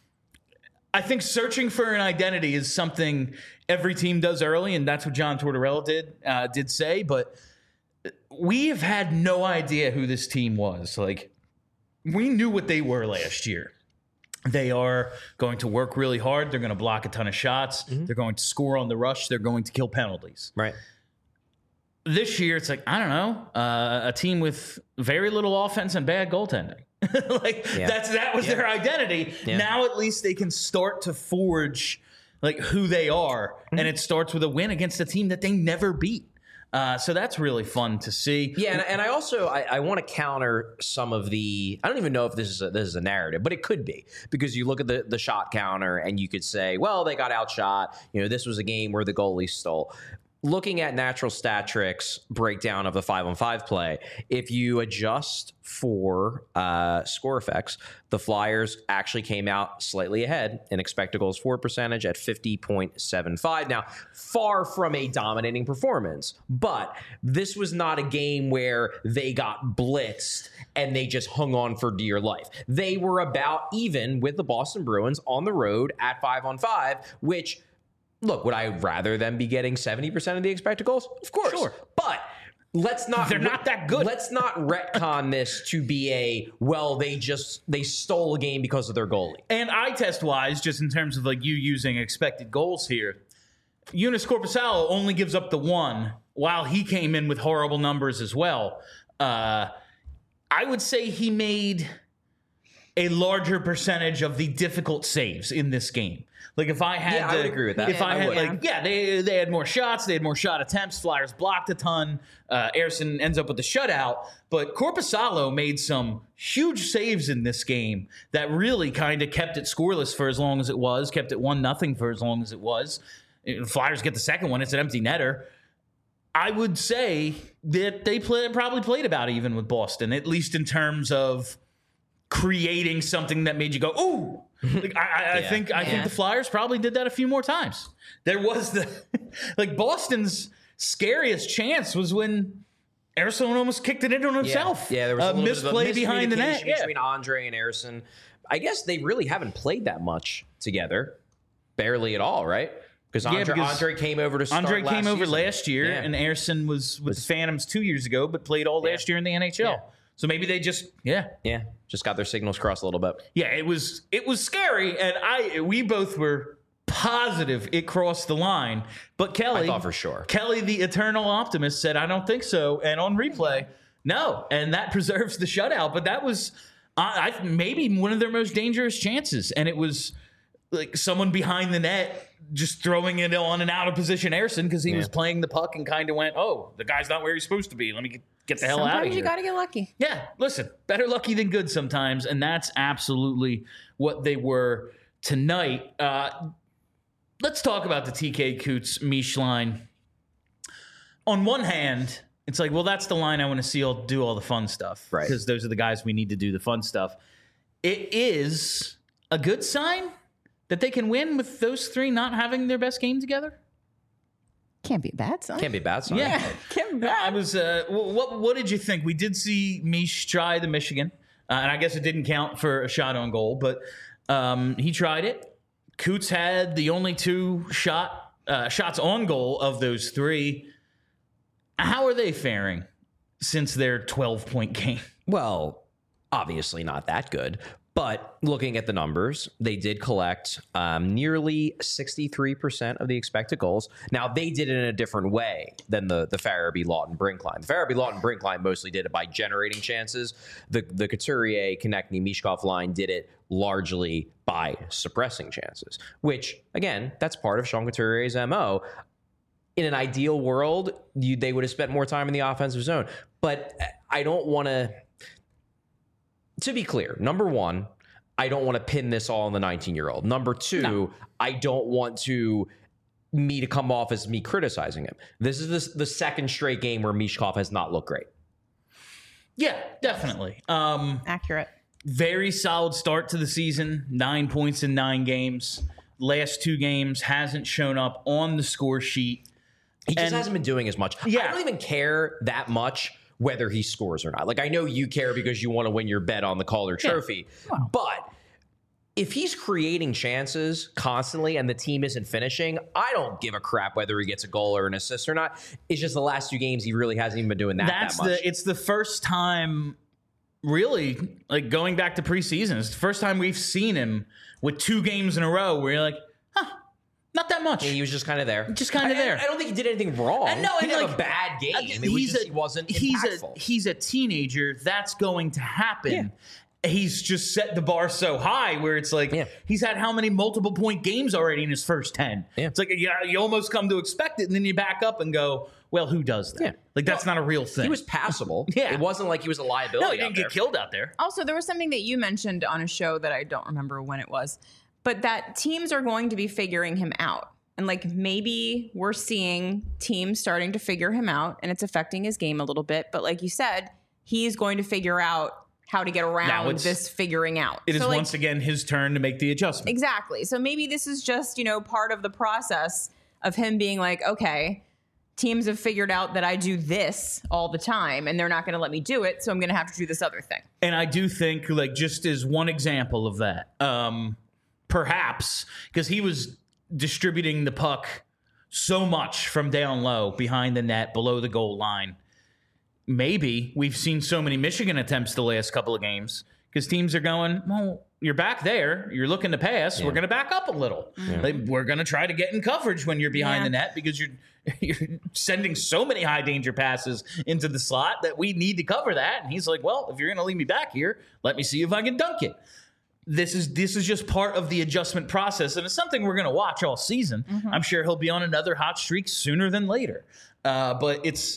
I think searching for an identity is something every team does early, and that's what John Tortorella did, uh, did say, but we have had no idea who this team was. Like, we knew what they were last year. They are going to work really hard. They're going to block a ton of shots. Mm-hmm. They're going to score on the rush. They're going to kill penalties. Right. This year, it's like, I don't know, uh, a team with very little offense and bad goaltending. like yeah. that's that was yeah. their identity. Yeah. Now at least they can start to forge like who they are, mm-hmm. and it starts with a win against a team that they never beat. Uh, so that's really fun to see. Yeah, and, and I also I, I want to counter some of the. I don't even know if this is a, this is a narrative, but it could be, because you look at the the shot counter and you could say, well, they got outshot. You know, this was a game where the goalie stole. Looking at natural stat tricks breakdown of the five on five play, if you adjust for uh, score effects, the Flyers actually came out slightly ahead in expected goals for percentage at fifty point seven five. Now, far from a dominating performance, but this was not a game where they got blitzed and they just hung on for dear life. They were about even with the Boston Bruins on the road at five on five, which, look, would I rather them be getting seventy percent of the expected goals? Of course. Sure. But let's not... They're not that good. Let's not retcon this to be a, well, they just, they stole a game because of their goalie. And eye test-wise, just in terms of like you using expected goals here, Joonas Korpisalo only gives up the one while he came in with horrible numbers as well. Uh, I would say he made a larger percentage of the difficult saves in this game. Like if I had yeah, to, I would agree with that. If I, I had would. like, yeah, they they had more shots, they had more shot attempts. Flyers blocked a ton. Uh, Ersson ends up with the shutout, but Korpisalo made some huge saves in this game that really kind of kept it scoreless for as long as it was, kept it one nothing for as long as it was. Flyers get the second one; it's an empty netter. I would say that they play, probably played about even with Boston, at least in terms of creating something that made you go, ooh. Like, I, I, yeah. I think I yeah. think the Flyers probably did that a few more times. There was the like Boston's scariest chance was when Ersson almost kicked it in on himself. Yeah, yeah there was uh, a misplay behind the net between yeah. Andre and Ersson. I guess they really haven't played that much together, barely at all, right? Because Andre, yeah, because Andre came over to start Andre last came over season. last year, yeah. and Ersson was with was, the Phantoms two years ago, but played all yeah. last year in the N H L. Yeah. So maybe they just, yeah. Yeah, just got their signals crossed a little bit. Yeah, it was it was scary, and I we both were positive it crossed the line. But Kelly, I thought for sure. Kelly, the eternal optimist, said, I don't think so. And on replay, no. And that preserves the shutout. But that was uh, I, maybe one of their most dangerous chances. And it was like someone behind the net just throwing it on an out-of-position Ersson because he yeah. was playing the puck and kind of went, oh, the guy's not where he's supposed to be. Let me get, get the hell sometimes out of here. You got to get lucky. Yeah, listen, better lucky than good sometimes, and that's absolutely what they were tonight. Uh, let's talk about the T K Kuutz-Misch line. On one hand, it's like, well, that's the line I want to see all do all the fun stuff. Right. Because those are the guys we need to do the fun stuff. It is a good sign that they can win with those three not having their best game together? Can't be a bad sign. Can't be a bad sign. Yeah. Can't be bad. I was, uh, what, what did you think? We did see Misch try the Michigan, uh, and I guess it didn't count for a shot on goal, but um, he tried it. Kuutz had the only two shot uh, shots on goal of those three. How are they faring since their twelve-point game? Well, obviously not that good. But looking at the numbers, they did collect um, nearly sixty-three percent of the expected goals. Now, they did it in a different way than the, the Farabee, Lawton, Brink line. The Farabee, Lawton, Brink line mostly did it by generating chances. The, the Couturier, Konechny, Michkov line did it largely by suppressing chances, which, again, that's part of Sean Couturier's M O. In an ideal world, you, they would have spent more time in the offensive zone. But I don't want to... To be clear, number one, I don't want to pin this all on the nineteen-year-old. Number two, no. I don't want to me to come off as me criticizing him. This is the, the second straight game where Michkov has not looked great. Yeah, definitely. Um, Accurate. Very solid start to the season. Nine points in nine games. Last two games hasn't shown up on the score sheet. He just and, hasn't been doing as much. Yeah. I don't even care that much whether he scores or not. Like, I know you care because you want to win your bet on the Calder Trophy. Yeah. Wow. But if he's creating chances constantly and the team isn't finishing, I don't give a crap whether he gets a goal or an assist or not. It's just the last two games he really hasn't even been doing that, That's that much. The, it's the first time really, like going back to preseason, it's the first time we've seen him with two games in a row where you're like, huh, not that much. He was just kind of there. Just kind of there. I, I don't think he did anything wrong. And no, he and didn't like, have a bad game. uh, It was just a, he wasn't he's impactful. A, he's a teenager. That's going to happen. Yeah. He's just set the bar so high where it's like yeah. he's had how many multiple point games already in his first ten. Yeah. It's like you, you almost come to expect it, and then you back up and go, well, who does that? Yeah. Like that's well, not a real thing. He was passable. Yeah. It wasn't like he was a liability. No, he didn't out get there. killed out there. Also, there was something that you mentioned on a show that I don't remember when it was, but that teams are going to be figuring him out. And like maybe we're seeing teams starting to figure him out and it's affecting his game a little bit. But like you said, he's going to figure out how to get around this figuring out. It is so like, once again his turn to make the adjustment. Exactly. So maybe this is just, you know, part of the process of him being like, okay, teams have figured out that I do this all the time and they're not going to let me do it. So I'm going to have to do this other thing. And I do think, like, just as one example of that, um, perhaps because he was distributing the puck so much from down low, behind the net, below the goal line. Maybe we've seen so many Michigan attempts the last couple of games because teams are going, well, you're back there. You're looking to pass. Yeah. We're going to back up a little. Yeah. Like, we're going to try to get in coverage when you're behind yeah. the net because you're you're sending so many high danger passes into the slot that we need to cover that. And he's like, well, if you're going to leave me back here, let me see if I can dunk it. This is this is just part of the adjustment process, and it's something we're going to watch all season. Mm-hmm. I'm sure he'll be on another hot streak sooner than later. Uh, but it's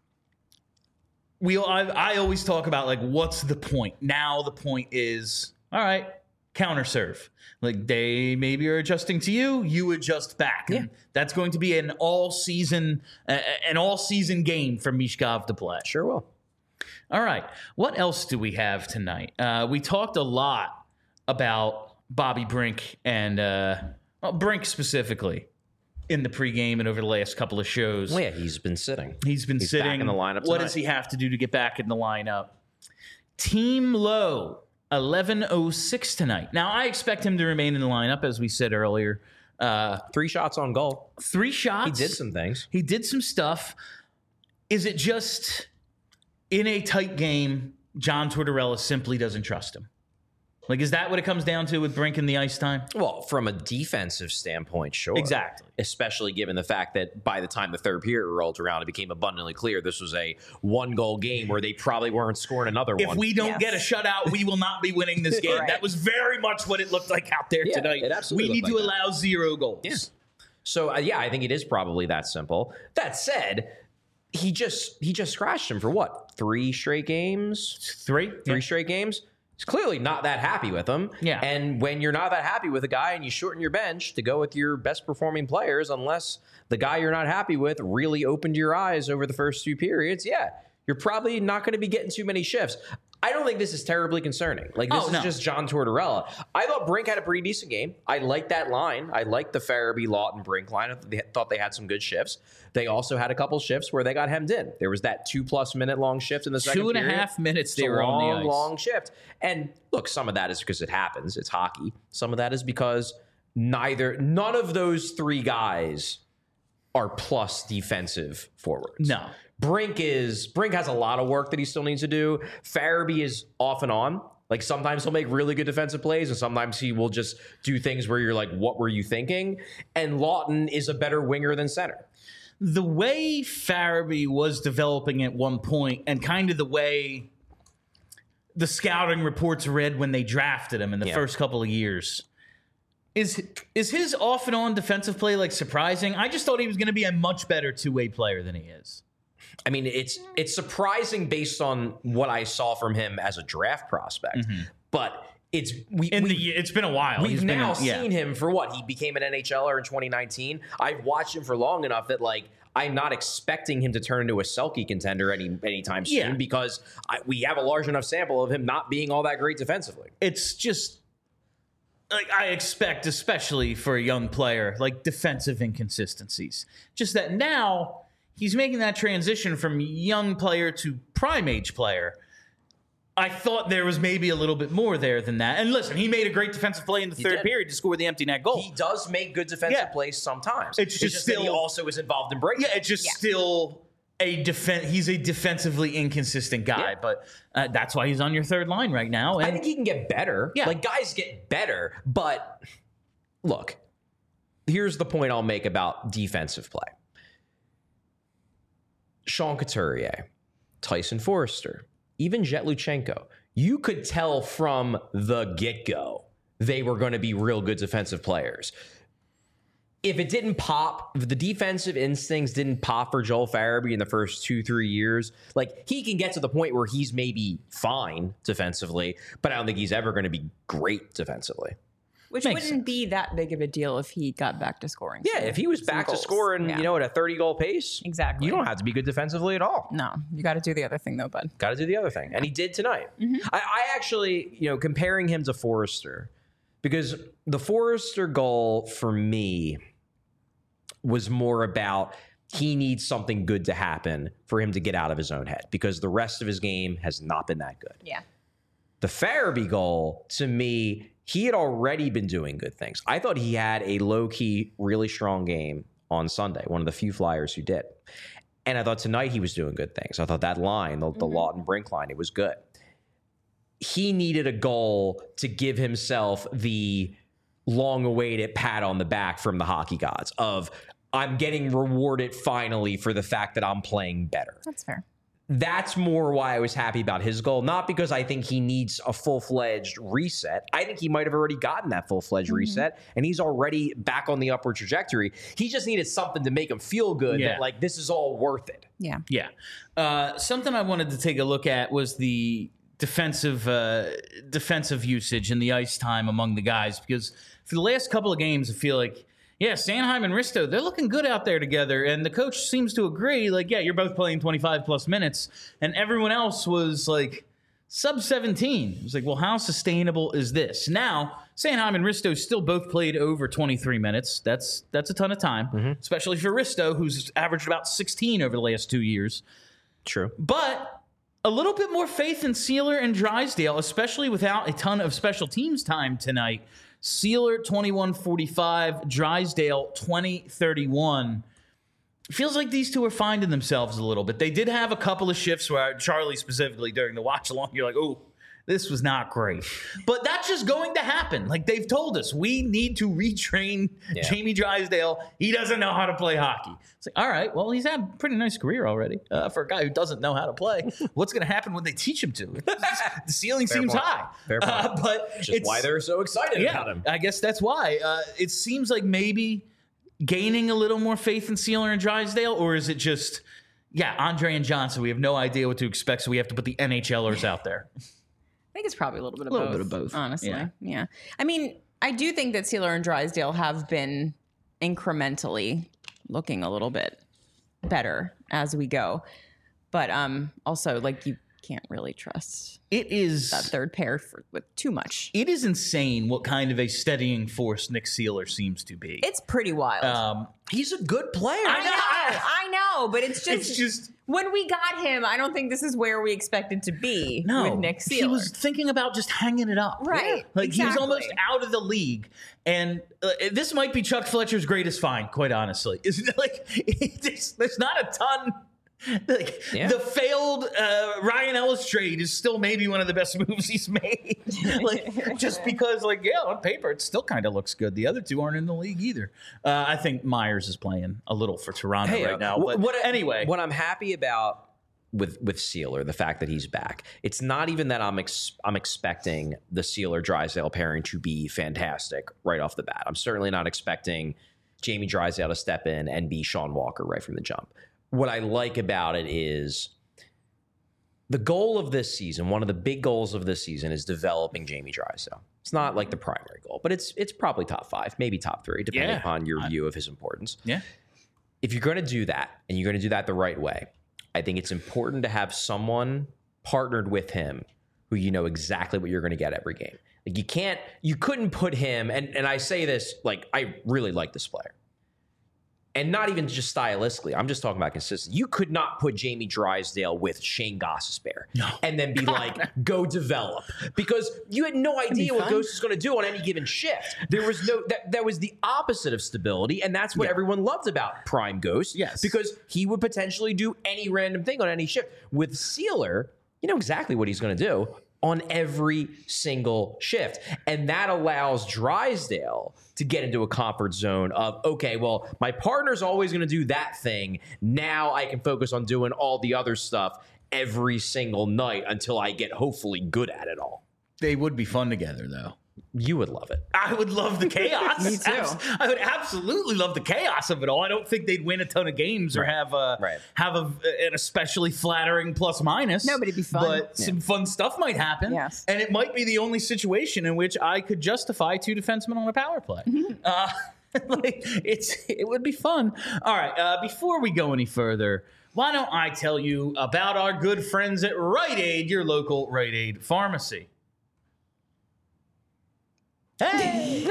we. I, I always talk about like, what's the point? Now the point is, all right, counter serve. Like they maybe are adjusting to you, you adjust back. Yeah. And that's going to be an all season, uh, an all season game for Mishkov to play. Sure will. All right, what else do we have tonight? Uh, we talked a lot about Bobby Brink and uh, well, Brink specifically in the pregame and over the last couple of shows. Well, yeah, he's been sitting. He's been he's sitting back in the lineup. What tonight. does he have to do to get back in the lineup? Team low, eleven oh six tonight. Now, I expect him to remain in the lineup, as we said earlier. Uh, three shots on goal. Three shots. He did some things. He did some stuff. Is it just in a tight game, John Tortorella simply doesn't trust him? Like, is that what it comes down to with Brink and the ice time? Well, from a defensive standpoint, sure. Exactly. Especially given the fact that by the time the third period rolled around, it became abundantly clear this was a one-goal game where they probably weren't scoring another if one. If we don't yes. get a shutout, we will not be winning this game. Right. That was very much what it looked like out there yeah, tonight. It absolutely we need like to that. allow zero goals. Yeah. So, uh, yeah, I think it is probably that simple. That said, he just he just scratched him for what? Three straight games? Three? Three yeah. straight games? He's clearly not that happy with him. Yeah. And when you're not that happy with a guy and you shorten your bench to go with your best performing players, unless the guy you're not happy with really opened your eyes over the first two periods, yeah, you're probably not going to be getting too many shifts. I don't think this is terribly concerning. Like, this oh, is no. just John Tortorella. I thought Brink had a pretty decent game. I liked that line. I liked the Farabee, Lawton, Brink line. I thought they had some good shifts. They also had a couple shifts where they got hemmed in. There was that two-plus minute long shift in the second Two and period. a half minutes It's they a were long, on the ice. long shift. And look, some of that is because it happens. It's hockey. Some of that is because neither, none of those three guys are plus defensive forwards. No. Brink is Brink has a lot of work that he still needs to do. Farabee is off and on. Like, sometimes he'll make really good defensive plays, and sometimes he will just do things where you're like, what were you thinking? And Lawton is a better winger than center. The way Farabee was developing at one point, and kind of the way the scouting reports read when they drafted him in the Yeah. first couple of years, is is his off and on defensive play like surprising? I just thought he was going to be a much better two-way player than he is. I mean, it's it's surprising based on what I saw from him as a draft prospect, Mm-hmm. but it's we, In we the it's been a while. We've He's been now in- yeah. seen him for what? He became an N H L er in twenty nineteen. I've watched him for long enough that, like, I'm not expecting him to turn into a Selke contender any anytime soon Yeah. because I, we have a large enough sample of him not being all that great defensively. It's just like I expect, especially for a young player, like defensive inconsistencies. Just that now he's making that transition from young player to prime age player. I thought there was maybe a little bit more there than that. And listen, he made a great defensive play in the third did. period to score the empty net goal. He does make good defensive Yeah. plays sometimes. It's just that he still- also is involved in breakdowns. yeah, it's just Yeah. still a defen- he's a defensively inconsistent guy, Yeah. but uh, that's why he's on your third line right now. I And think he can get better. Yeah. Like, guys get better. But look, here's the point I'll make about defensive play. Sean Couturier, Tyson Forrester, even Jet Luchenko, you could tell from the get-go they were going to be real good defensive players. If it didn't pop, if the defensive instincts didn't pop for Joel Farabee in the first two, three years, like, he can get to the point where he's maybe fine defensively, but I don't think he's ever going to be great defensively. Which Makes wouldn't sense. be that big of a deal if he got back to scoring. Yeah, some- if he was some back to goals. scoring, Yeah. you know, at a thirty-goal pace, Exactly. you don't have to be good defensively at all. No, you got to do the other thing though, bud. Got to do the other thing. And he did tonight. I, I actually, you know, comparing him to Forrester, because the Forrester goal for me was more about he needs something good to happen for him to get out of his own head, because the rest of his game has not been that good. Yeah. The Farabee goal, to me, he had already been doing good things. I thought he had a low-key, really strong game on Sunday, one of the few Flyers who did. And I thought tonight he was doing good things. I thought that line, the, the Lawton Brink line, it was good. He needed a goal to give himself the long-awaited pat on the back from the hockey gods of, I'm getting rewarded finally for the fact that I'm playing better. That's fair. That's more why I was happy about his goal, not because I think he needs a full-fledged reset. I think he might have already gotten that full-fledged Mm-hmm. reset, and he's already back on the upward trajectory. He just needed something to make him feel good, Yeah. that, like, this is all worth it. Yeah. yeah, uh, something I wanted to take a look at was the defensive uh, defensive usage and the ice time among the guys, because for the last couple of games, I feel like, yeah, Sanheim and Risto, they're looking good out there together. And the coach seems to agree, like, yeah, you're both playing twenty-five plus minutes. And everyone else was like sub seventeen. It was like, well, how sustainable is this? Now, Sanheim and Risto still both played over twenty-three minutes. That's that's a ton of time, especially for Risto, who's averaged about sixteen over the last two years. True. But a little bit more faith in Sealer and Drysdale, especially without a ton of special teams time tonight. Sealer twenty-one forty-five, Drysdale twenty thirty-one. Feels like these two are finding themselves a little bit. They did have a couple of shifts where Charlie specifically during the watch along, you're like, oh, this was not great. But that's just going to happen. Like they've told us, we need to retrain Yeah. Jamie Drysdale. He doesn't know how to play hockey. It's like, all right, well, he's had a pretty nice career already uh, for a guy who doesn't know how to play. What's going to happen when they teach him to? The ceiling Fair seems point. high. Fair point. Uh, but Which is it's, why they're so excited yeah, about him. I guess that's why. Uh, it seems like maybe gaining a little more faith in Sealer and Drysdale, or is it just, yeah, Andre and Johnson, we have no idea what to expect, so we have to put the NHLers out there. I think it's probably a little bit of Little both. bit of both, Honestly. yeah. Yeah. I mean, I do think that Sealer and Drysdale have been incrementally looking a little bit better as we go. But um also, like, you can't really trust It is that third pair for, with too much. it is insane what kind of a steadying force Nick Sealer seems to be. It's pretty wild. Um, He's a good player. I know, I know, but it's just, it's just when we got him, I don't think this is where we expected to be no. with Nick Sealer. He was thinking about just hanging it up. Right, Like he was exactly. almost out of the league. And uh, this might be Chuck Fletcher's greatest find, quite honestly. Is like there's, there's not a ton. Like Yeah. the failed uh, Ryan Ellis trade is still maybe one of the best moves he's made. Like just because, like, yeah, on paper it still kind of looks good. The other two aren't in the league either. Uh, I think Myers is playing a little for Toronto Hey, right uh, now. wh- But what, anyway, what I'm happy about with with Sealer, the fact that he's back, it's not even that I'm ex- I'm expecting the Sealer Drysdale pairing to be fantastic right off the bat. I'm certainly not expecting Jamie Drysdale to step in and be Sean Walker right from the jump. What I like about it is the goal of this season, one of the big goals of this season, is developing Jamie Drysdale. It's not like the primary goal, but it's it's probably top five, maybe top three, depending Yeah. upon your view of his importance. yeah. If you're going to do that and you're going to do that the right way, I think it's important to have someone partnered with him who you know exactly what you're going to get every game. Like you can't, you couldn't put him, and, and I say this, like, I really like this player. and not even just stylistically. I'm just talking about consistency. You could not put Jamie Drysdale with Shane Gostisbehere No. and then be like, go develop, because you had no idea what fun. Ghost was going to do on any given shift. There was no that, that was the opposite of stability, and that's what Yeah. everyone loved about Prime Ghost. Yes. because he would potentially do any random thing on any shift. With Sealer, you know exactly what he's going to do on every single shift. And that allows Drysdale to get into a comfort zone of, okay, well, my partner's always going to do that thing. Now I can focus on doing all the other stuff every single night until I get hopefully good at it all. They would be fun together, though. You would love it. I would love the chaos. Me too. Abs- I would absolutely love the chaos of it all. I don't think they'd win a ton of games or Right. have a Right. have a, an especially flattering plus minus. No, but it'd be fun. But some fun stuff might happen. Yes. And it might be the only situation in which I could justify two defensemen on a power play. uh, like it's it would be fun. All right. Uh, before we go any further, why don't I tell you about our good friends at Rite Aid, your local Rite Aid pharmacy. Hey!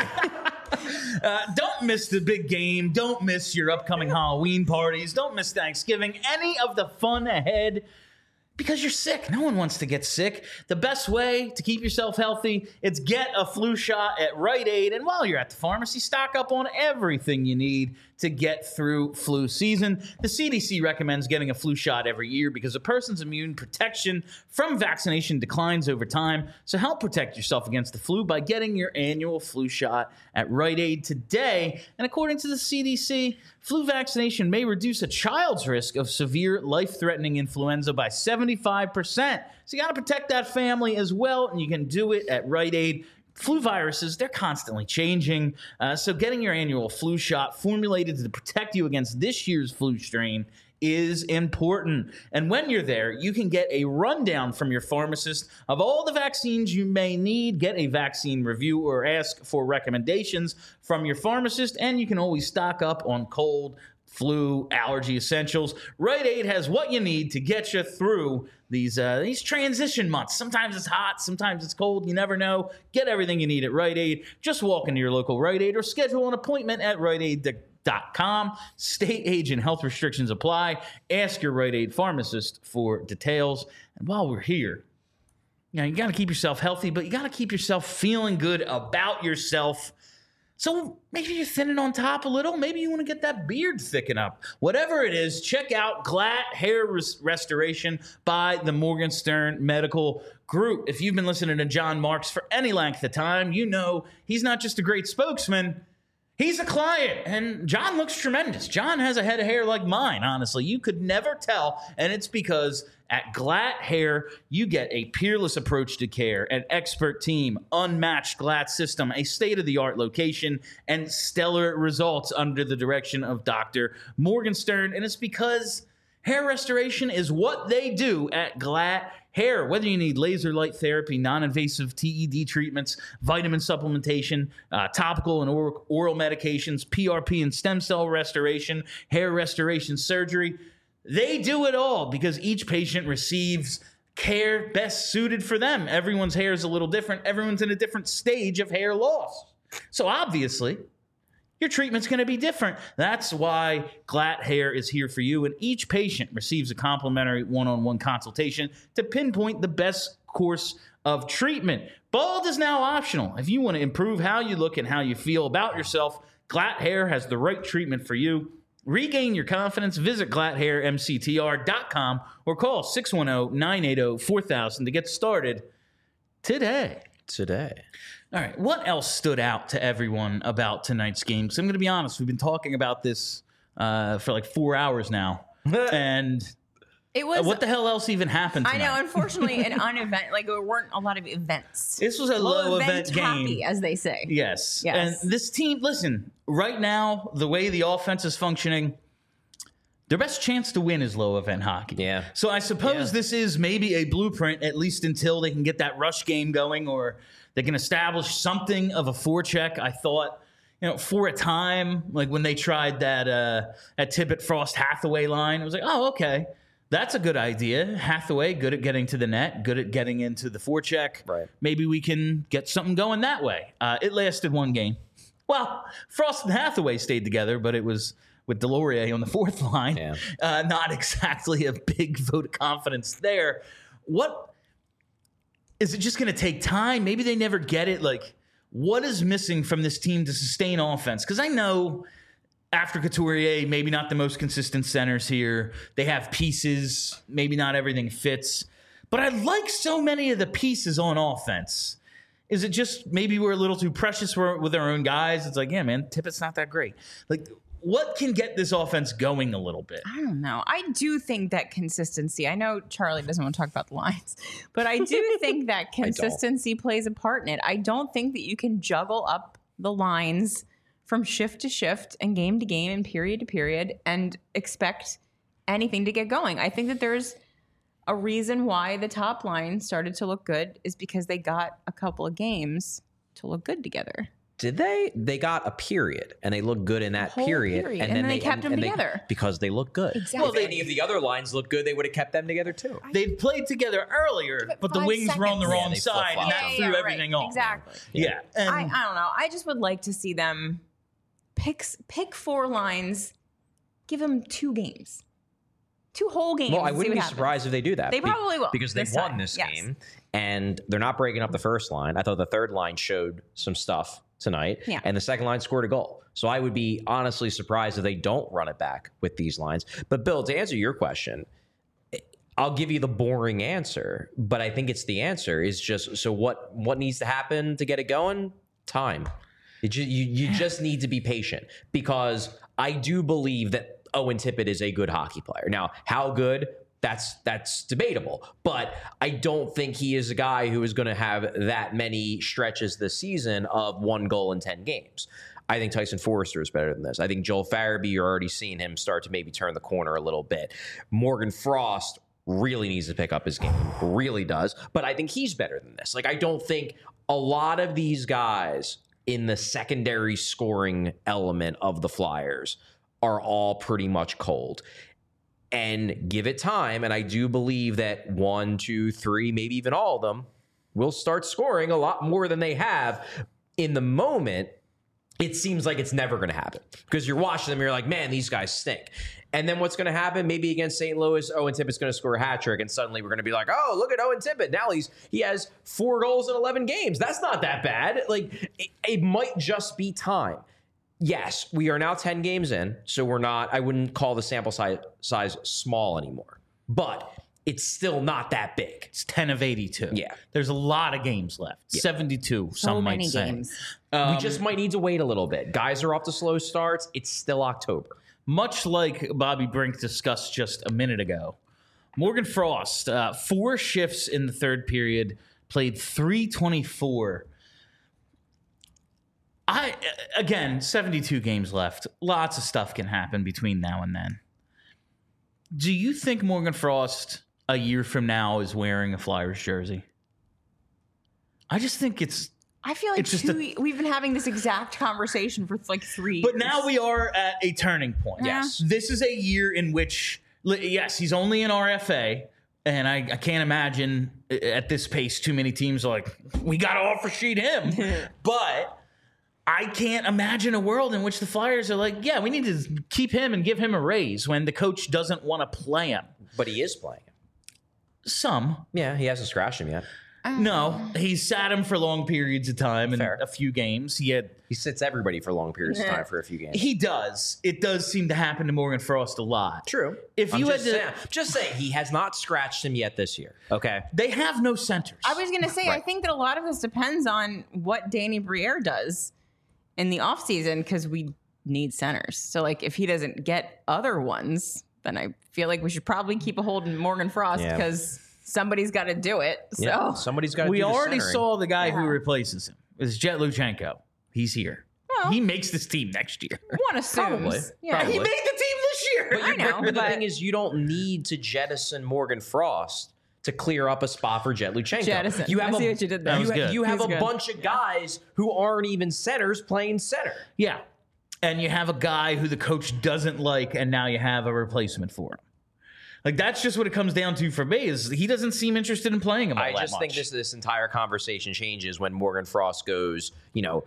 uh, don't miss the big game. Don't miss your upcoming Halloween parties. Don't miss Thanksgiving. Any of the fun ahead. Because you're sick. No one wants to get sick. The best way to keep yourself healthy is get a flu shot at Rite Aid. And while you're at the pharmacy, stock up on everything you need to get through flu season. The C D C recommends getting a flu shot every year because a person's immune protection from vaccination declines over time. So help protect yourself against the flu by getting your annual flu shot at Rite Aid today. And according to the C D C, flu vaccination may reduce a child's risk of severe life-threatening influenza by seventy-five percent. So you got to protect that family as well, and you can do it at Rite Aid. Flu viruses, they're constantly changing. Uh, so getting your annual flu shot formulated to protect you against this year's flu strain is important. And when you're there, you can get a rundown from your pharmacist of all the vaccines you may need, get a vaccine review, or ask for recommendations from your pharmacist, and you can always stock up on cold, flu, allergy essentials. Rite Aid has what you need to get you through these uh, these transition months. Sometimes it's hot, sometimes it's cold. You never know. Get everything you need at Rite Aid. Just walk into your local Rite Aid or schedule an appointment at Rite Aid dot com. State, age, and health restrictions apply. Ask your Rite Aid pharmacist for details. And while we're here, you know, you got to keep yourself healthy, but you got to keep yourself feeling good about yourself. So maybe you're thinning on top a little. Maybe you want to get that beard thicken up. Whatever it is, check out Glatt Hair Res- Restoration by the Morgenstern Medical Group. If you've been listening to John Marks for any length of time, you know he's not just a great spokesman. He's a client, and John looks tremendous. John has a head of hair like mine, honestly. You could never tell, and it's because at Glatt Hair, you get a peerless approach to care, an expert team, unmatched Glatt system, a state-of-the-art location, and stellar results under the direction of Doctor Morgenstern. And it's because hair restoration is what they do at Glatt Hair. Whether you need laser light therapy, non-invasive T E D treatments, vitamin supplementation, uh, topical and or- oral medications, P R P and stem cell restoration, hair restoration surgery, they do it all because each patient receives care best suited for them. Everyone's hair is a little different. Everyone's in a different stage of hair loss. So obviously, your treatment's going to be different. That's why Glatt Hair is here for you, and each patient receives a complimentary one-on-one consultation to pinpoint the best course of treatment. Bald is now optional. If you want to improve how you look and how you feel about yourself, Glatt Hair has the right treatment for you. Regain your confidence. Visit glatt hair m c t r dot com or call six one zero, nine eight zero, four thousand to get started today. Today. All right, what else stood out to everyone about tonight's game? Because I'm going to be honest, we've been talking about this uh, for like four hours now. And It was. what the hell else even happened I tonight? know. Unfortunately, an unevent. Like there weren't a lot of events. This was a low event game. happy, as they say. Yes. Yes. And this team, listen, right now, the way the offense is functioning, their best chance to win is low event hockey. Yeah. So I suppose Yeah. this is maybe a blueprint, at least until they can get that rush game going or they can establish something of a forecheck. I thought, you know, for a time, like when they tried that uh, at Tippett Frost Hathaway line, it was like, oh, okay. That's a good idea. Hathaway, good at getting to the net, good at getting into the forecheck. Right. Maybe we can get something going that way. Uh, it lasted one game. Well, Frost and Hathaway stayed together, but it was with Delorier on the fourth line. Yeah. Uh, not exactly a big vote of confidence there. What is it just going to take time? Maybe they never get it. Like, what is missing from this team to sustain offense? Because I know after Couturier, maybe not the most consistent centers here. They have pieces. Maybe not everything fits. But I like so many of the pieces on offense. Is it just maybe we're a little too precious with our own guys? It's like, yeah, man, Tippett's not that great. Like, what can get this offense going a little bit? I don't know. I do think that consistency, I know Charlie doesn't want to talk about the lines, but I do think that consistency plays a part in it. I don't think that you can juggle up the lines from shift to shift and game to game and period to period and expect anything to get going. I think that there's a reason why the top line started to look good is because they got a couple of games to look good together. Did they? They got a period, and they looked good in that Whole period, period. And then they kept them and they- together. because they look good. Exactly. Well, if any of the other lines look good, they would have kept them together too. They played together earlier, Give it but the five wings were on the seconds. wrong Yeah, they side, and flip-flopped. that Yeah, threw yeah, right. everything off. Exactly. Yeah. And I, I don't know. I just would like to see them pick pick four lines, give them two games, two whole games. Well, I and see wouldn't what be happens. surprised if they do that. They Be- probably will because they this won time. this Yes. game, and they're not breaking up the first line. I thought the third line showed some stuff tonight, Yeah. and the second line scored a goal. So I would be honestly surprised if they don't run it back with these lines. But Bill, to answer your question, I'll give you the boring answer, but I think it's the answer. Is just so what what needs to happen to get it going? Time. It ju- you you just need to be patient, because I do believe that Owen Tippett is a good hockey player. Now, how good? That's that's debatable, but I don't think he is a guy who is going to have that many stretches this season of one goal in ten games. I think Tyson Forrester is better than this. I think Joel Farabee, you're already seeing him start to maybe turn the corner a little bit. Morgan Frost really needs to pick up his game, really does, but I think he's better than this. Like, I don't think a lot of these guys in the secondary scoring element of the Flyers are all pretty much cold. And give it time, and I do believe that one, two, three, maybe even all of them will start scoring a lot more than they have. In the moment, it seems like it's never going to happen, because you're watching them, you're like, man, these guys stink. And then what's going to happen? Maybe against Saint Louis, Owen Tippett's going to score a hat trick, and suddenly we're going to be like, oh, look at Owen Tippett. Now he's he has four goals in eleven games. That's not that bad. Like, it, it might just be time. Yes, we are now ten games in, so we're not, I wouldn't call the sample size, size small anymore, but it's still not that big. it's ten of eighty-two. Yeah. There's a lot of games left. seventy-two, So some many might say. games. Um, we just might need to wait a little bit. Guys are off to slow starts. It's still October. Much like Bobby Brink discussed just a minute ago, Morgan Frost, uh, four shifts in the third period, played three twenty-four. I again, seventy-two games left. Lots of stuff can happen between now and then. Do you think Morgan Frost a year from now is wearing a Flyers jersey? I just think it's I feel like It's just two, we've been having this exact conversation for like three But years. now we are at a turning point. Yes. This is a year in which, li- yes, he's only in R F A, and I, I can't imagine uh, at this pace too many teams are like, we got to offer sheet him. But I can't imagine a world in which the Flyers are like, yeah, we need to keep him and give him a raise when the coach doesn't want to play him. But he is playing. Some. Yeah, he hasn't scratched him yet. No, he sat him for long periods of time in Fair. a few games. He had He sits everybody for long periods of time for a few games. he does. It does seem to happen to Morgan Frost a lot. True. If I'm you had just to- saying, just saying, he has not scratched him yet this year. Okay. They have no centers. I was going to say, I Right. think that a lot of this depends on what Danny Briere does in the offseason, because we need centers. So, like, if he doesn't get other ones, then I feel like we should probably keep a hold on Morgan Frost, Yeah. because somebody's got to do it. So, Yeah, somebody's got to we do the already centering. saw the guy who Yeah. replaces him. It's Jet Luchenko. He's here. Well, he makes this team next year. one assumes. Probably. Yeah. Probably. He made the team this year. But, I you, know, but the but- thing is, you don't need to jettison Morgan Frost to clear up a spot for Jet Luchenko. Jettison. You have I a, see what you did there. That You, was ha- good. you have He's a good. bunch of guys who aren't even centers playing center. Yeah. And you have a guy who the coach doesn't like, and now you have a replacement for him. Like, that's just what it comes down to for me, is he doesn't seem interested in playing him all I that just think much. this this entire conversation changes when Morgan Frost goes, you know,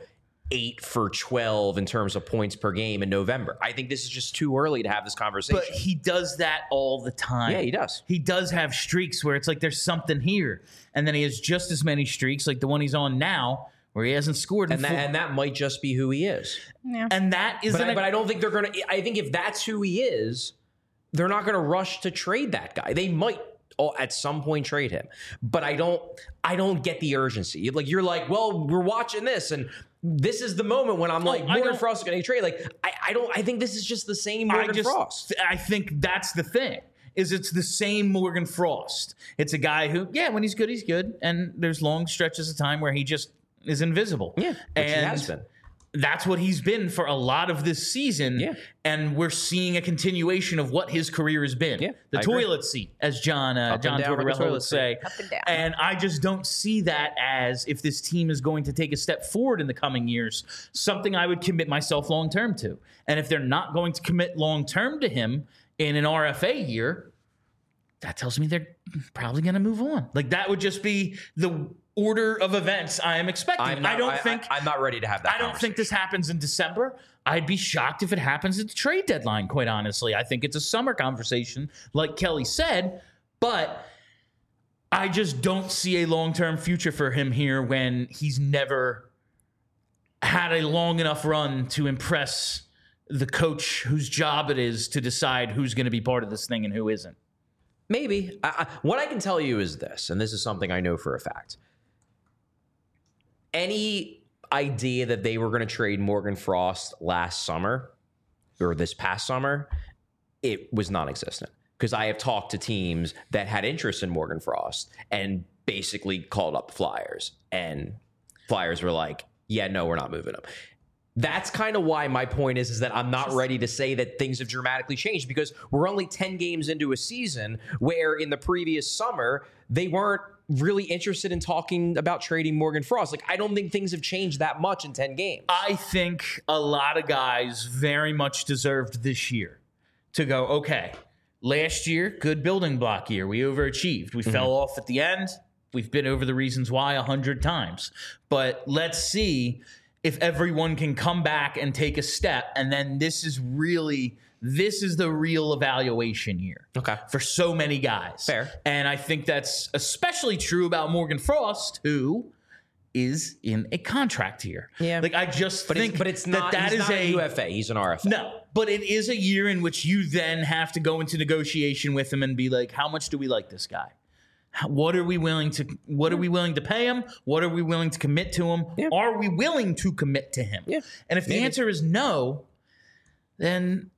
eight for twelve in terms of points per game in November. I think this is just too early to have this conversation. But he does that all the time. Yeah, he does. He does have streaks where it's like there's something here. And then he has just as many streaks like the one he's on now where he hasn't scored. In and, that, full. and that might just be who he is. Yeah. And that isn't But I, a- but I don't think they're going to – I think if that's who he is, they're not going to rush to trade that guy. They might – oh, at some point trade him. But I don't I don't get the urgency. Like you're like, well, we're watching this and this is the moment when I'm like, I Morgan don't- Frost is going to trade. Like I, I don't I think this is just the same Morgan I just, Frost. I think that's the thing. Is it's the same Morgan Frost. It's a guy who, yeah, when he's good, he's good, and there's long stretches of time where he just is invisible. Yeah, which and he has been. That's what he's been for a lot of this season. Yeah. And we're seeing a continuation of what his career has been. Yeah, the I agree. toilet seat, as John uh, Up and John down with the Tortorella toilet would seat. say. Up and down. And I just don't see that as if this team is going to take a step forward in the coming years, something I would commit myself long term to. And if they're not going to commit long term to him in an R F A year, that tells me they're probably going to move on. Like that would just be the order of events I am expecting. I'm not, I don't I, think I, I'm not ready to have that I don't think this happens in December. I'd be shocked if it happens at the trade deadline, quite honestly. I think it's a summer conversation, like Kelly said, but I just don't see a long-term future for him here when he's never had a long enough run to impress the coach whose job it is to decide who's going to be part of this thing and who isn't. Maybe. I, I, what I can tell you is this, and this is something I know for a fact. Any idea that they were going to trade Morgan Frost last summer or this past summer, it was non-existent. Because I have talked to teams that had interest in Morgan Frost and basically called up the Flyers. And Flyers were like, yeah, no, we're not moving him. That's kind of why my point is, is that I'm not ready to say that things have dramatically changed because we're only ten games into a season where in the previous summer, they weren't really interested in talking about trading Morgan Frost. Like, I don't think things have changed that much in ten games. I think a lot of guys very much deserved this year to go, okay, last year, good building block year. We overachieved. We mm-hmm. fell off at the end. We've been over the reasons why a hundred times. But let's see if everyone can come back and take a step. And then this is really, this is the real evaluation year. Okay. For so many guys. Fair. And I think that's especially true about Morgan Frost, who is in a contract here. Yeah. Like I just but think it's, but it's not, that that he's is not a a U F A. He's an R F A. No, but it is a year in which you then have to go into negotiation with him and be like, how much do we like this guy? How, what are we willing to what are we willing to pay him? What are we willing to commit to him? Yeah. Are we willing to commit to him? Yeah. And if the Maybe. answer is no, then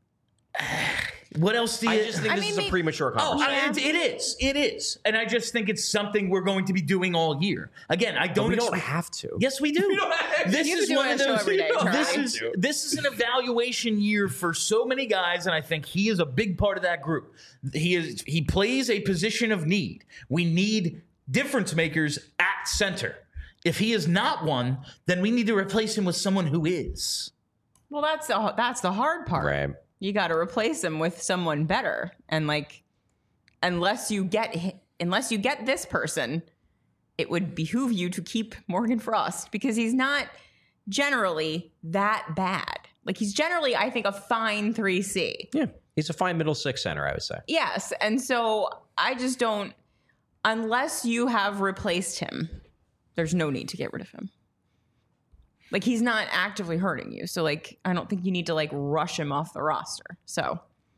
what else do you I just think I this mean, is a maybe- premature Oh, conversation. I- it, it is. It is. And I just think it's something we're going to be doing all year. Again, I don't we don't expect- have to. Yes, we do. This You is do one it of on a show those. every day, this Charlie. is this is an evaluation year for so many guys, and I think he is a big part of that group. He is. He plays a position of need. We need difference makers at center. If he is not one, then we need to replace him with someone who is. Well, that's the that's the hard part. Right. You got to replace him with someone better, and like, unless you get hi- unless you get this person, it would behoove you to keep Morgan Frost because he's not generally that bad. Like he's generally, I think, a fine three C. Yeah. He's a fine middle six center, I would say. Yes, and so I just don't. Unless you have replaced him, there's no need to get rid of him. Like he's not actively hurting you, so like I don't think you need to like rush him off the roster. So,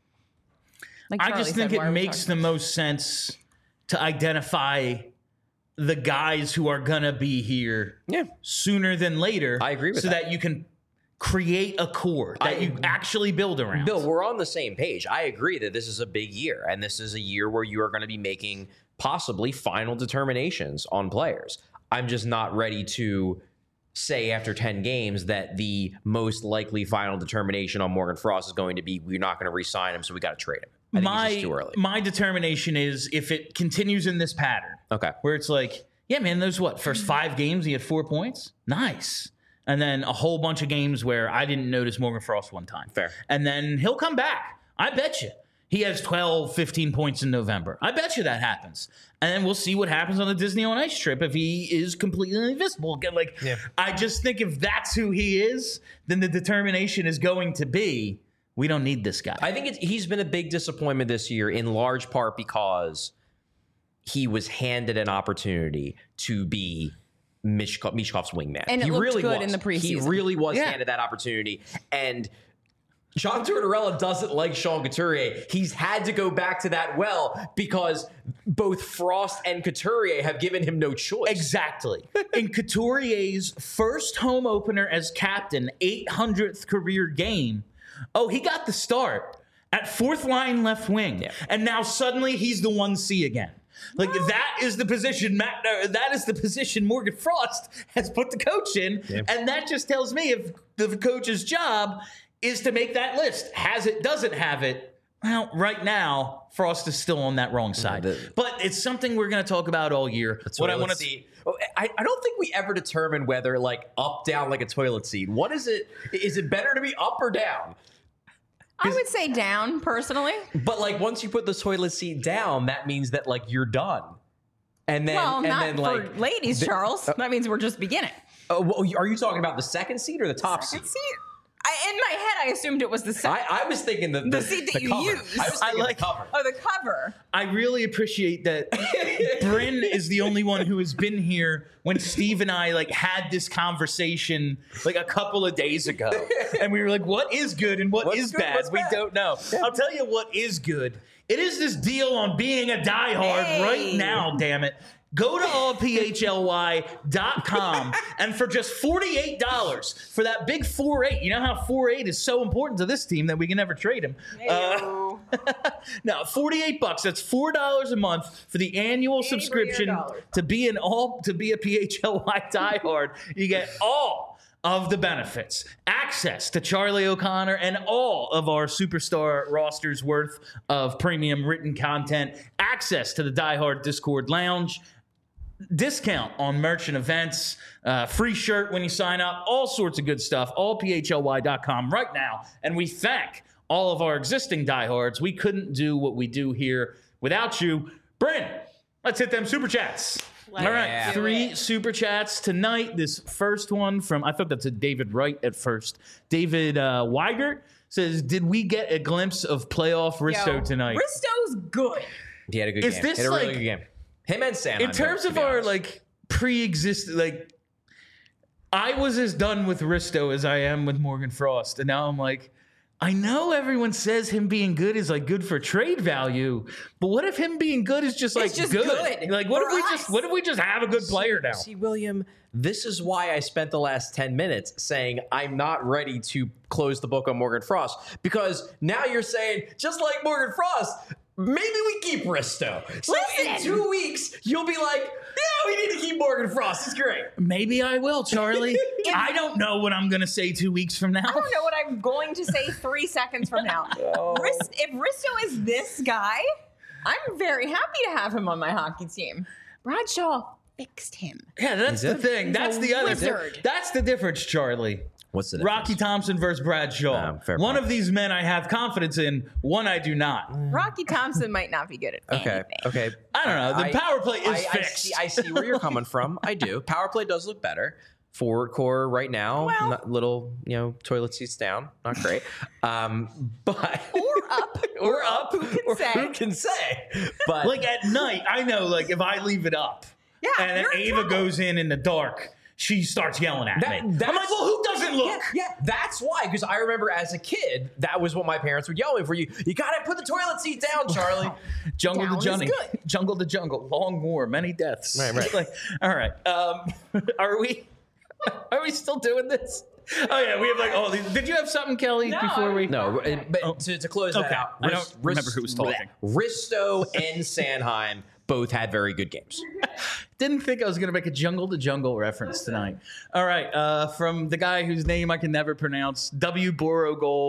like I Charlie just said, think why it are we makes talking the most sense to identify the guys who are gonna be here Yeah. sooner than later. I agree with so that. that you can create a core that I- you actually build around. Bill, we're on the same page. I agree that this is a big year, and this is a year where you are going to be making possibly final determinations on players. I'm just not ready to say after ten games that the most likely final determination on Morgan Frost is going to be we're not going to re-sign him, so we got to trade him. I think my it's just too early. my determination is if it continues in this pattern, Okay. where it's like, yeah, man, those what first five games he had four points, nice, and then a whole bunch of games where I didn't notice Morgan Frost one time, Fair. and then he'll come back. I bet you he has twelve, fifteen points in November. I bet you that happens. And then we'll see what happens on the Disney on Ice trip if he is completely invisible again. Like, Yeah. I just think if that's who he is, then the determination is going to be, we don't need this guy. I think it's, he's been a big disappointment this year, in large part because he was handed an opportunity to be Mishko- Mishkov's wingman. And it he looked really good was. in the preseason. He really was Yeah. handed that opportunity. And John Tortorella doesn't like Sean Couturier. He's had to go back to that well because both Frost and Couturier have given him no choice. Exactly. In Couturier's first home opener as captain, eight hundredth career game, oh, he got the start at fourth line left wing. Yeah. And now suddenly he's the one C again. Like that is the position Matt, uh, that is the position Morgan Frost has put the coach in. Yeah. And that just tells me if the coach's job is to make that list. Has it, doesn't have it. Well, right now, Frost is still on that wrong side. the- but it's something we're going to talk about all year. What I want to see. I, I don't think we ever determined whether like up, down, like a toilet seat. What is it? Is it better to be up or down? I would say down, personally. But like once you put the toilet seat down, that means that like you're done. And then Well, and not then for like ladies, Charles. That means we're just beginning. oh, well, are you talking about the second seat or the top Second seat? seat. I, in my head, I assumed it was the second. I, I was thinking the, the, seat that you cover. use. I was I thinking like- the cover. Oh, the cover. I really appreciate that Bryn is the only one who has been here when Steve and I like had this conversation like a couple of days ago. And we were like, what is good and what What's is good, bad? what's We bad? don't know. I'll tell you what is good. It is this deal on being a diehard Hey. right now, damn it. Go to all p h l y dot com and for just forty-eight dollars for that big four eight. You know how four eight is so important to this team that we can never trade him. Uh, no, forty-eight bucks. That's four dollars a month for the annual Angry subscription dollars. to be an all to be a P H L Y diehard. You get all of the benefits, access to Charlie O'Connor and all of our superstar rosters worth of premium written content, access to the Die Hard Discord Lounge, discount on merch and events, uh, free shirt when you sign up, all sorts of good stuff, all p h l y dot com right now. And we thank all of our existing diehards. We couldn't do what we do here without you. Bryn, let's hit them super chats. Let's all right, do three it. super chats tonight. This first one from, I thought that's a David Wright at first. David uh, Weigert says, did we get a glimpse of playoff Risto Yo, tonight? Risto's good. He had a good Is game. this He had a really like- good game. Him and Sam. In terms of our like pre-existing, like I was as done with Risto as I am with Morgan Frost, and now I'm like, I know everyone says him being good is like good for trade value, but what if him being good is just like just good? good Like what for if we us. just what if we just have a good player now? See, William, this is why I spent the last ten minutes saying I'm not ready to close the book on Morgan Frost, because now you're saying, just like Morgan Frost, maybe we keep Risto. So in Listen. two weeks, you'll be like, yeah, we need to keep Morgan Frost. It's great. Maybe I will, Charlie. I don't know what I'm gonna say two weeks from now. I don't know what I'm going to say three seconds from now. Ris- if Risto is this guy, I'm very happy to have him on my hockey team. Bradshaw fixed him. Yeah, that's the did. thing. That's a the other wizard. thing. That's the difference, Charlie. What's the Rocky Thompson versus Bradshaw. Um, fair one point. of these men I have confidence in, one I do not. Rocky Thompson might not be good at Okay. anything. Okay. I don't know. The I- power play is I, I fixed. see, I see where you're coming from. I do. Power play does look better. Forward core right now, Well- not little, you know, toilet seats down. Not great. Um, but Or up. or up. Who can or say? Who can say? But Like at night, I know. Like if I leave it up, Yeah, and then you're in Ava trouble. goes in in the dark, she starts yelling at That- me. I'm that's- like, well, who doesn't look? Yeah, yeah, that's why. Because I remember as a kid, that was what my parents would yell at me for. You, you gotta put the toilet seat down, Charlie. Jungle Down to is jungle, good. jungle to jungle, long war, many deaths. Right, right. Like, all right. Um, are we? Are we still doing this? Oh yeah, we have like all these. Did you have something, Kelly, No, before we? No, but to, to close that Okay. out, I don't remember who was talking. Risto and Sanheim both had very good games. Didn't think I was going to make a jungle to jungle reference tonight. All right, uh, from the guy whose name I can never pronounce, W. Borogol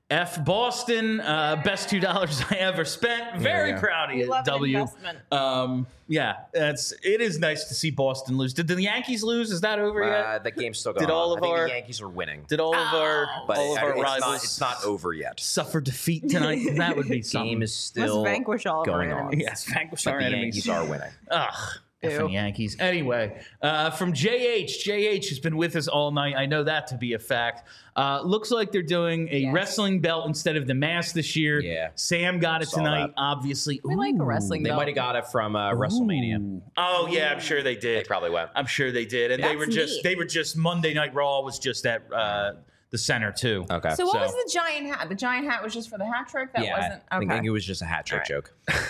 F Boston, uh, best two dollars I ever spent. Very Yeah. proud of We you, love an W. investment. Um, yeah, it's it is nice to see Boston lose. Did the Yankees lose? Is that over Uh, yet? the game's still going Did all on. of I think our- the Yankees are winning, Did all of our but all of it- our it's, rivals not, it's not over yet. suffer defeat tonight? That would be something. Game is still vanquish all of our going on. enemies. Yes, vanquish But our the enemies. Yankees are winning. Ugh. Ew. Effing Yankees. Anyway, uh, from J H. J H has been with us all night. I know that to be a fact. Uh, looks like they're doing a Yes. wrestling belt instead of the mask this year. Yeah. Sam got it Saw tonight, that. obviously. We like a Ooh. wrestling They belt. might have got it from uh, WrestleMania. Ooh. Oh yeah, I'm sure they They did. probably went. I'm sure they did, and they That's were just neat. they were just Monday Night Raw was just at uh, the center too. Okay. So what So- was the giant hat? The giant hat was just for the hat trick? That yeah, wasn't I think okay. it was just a hat trick All right. joke.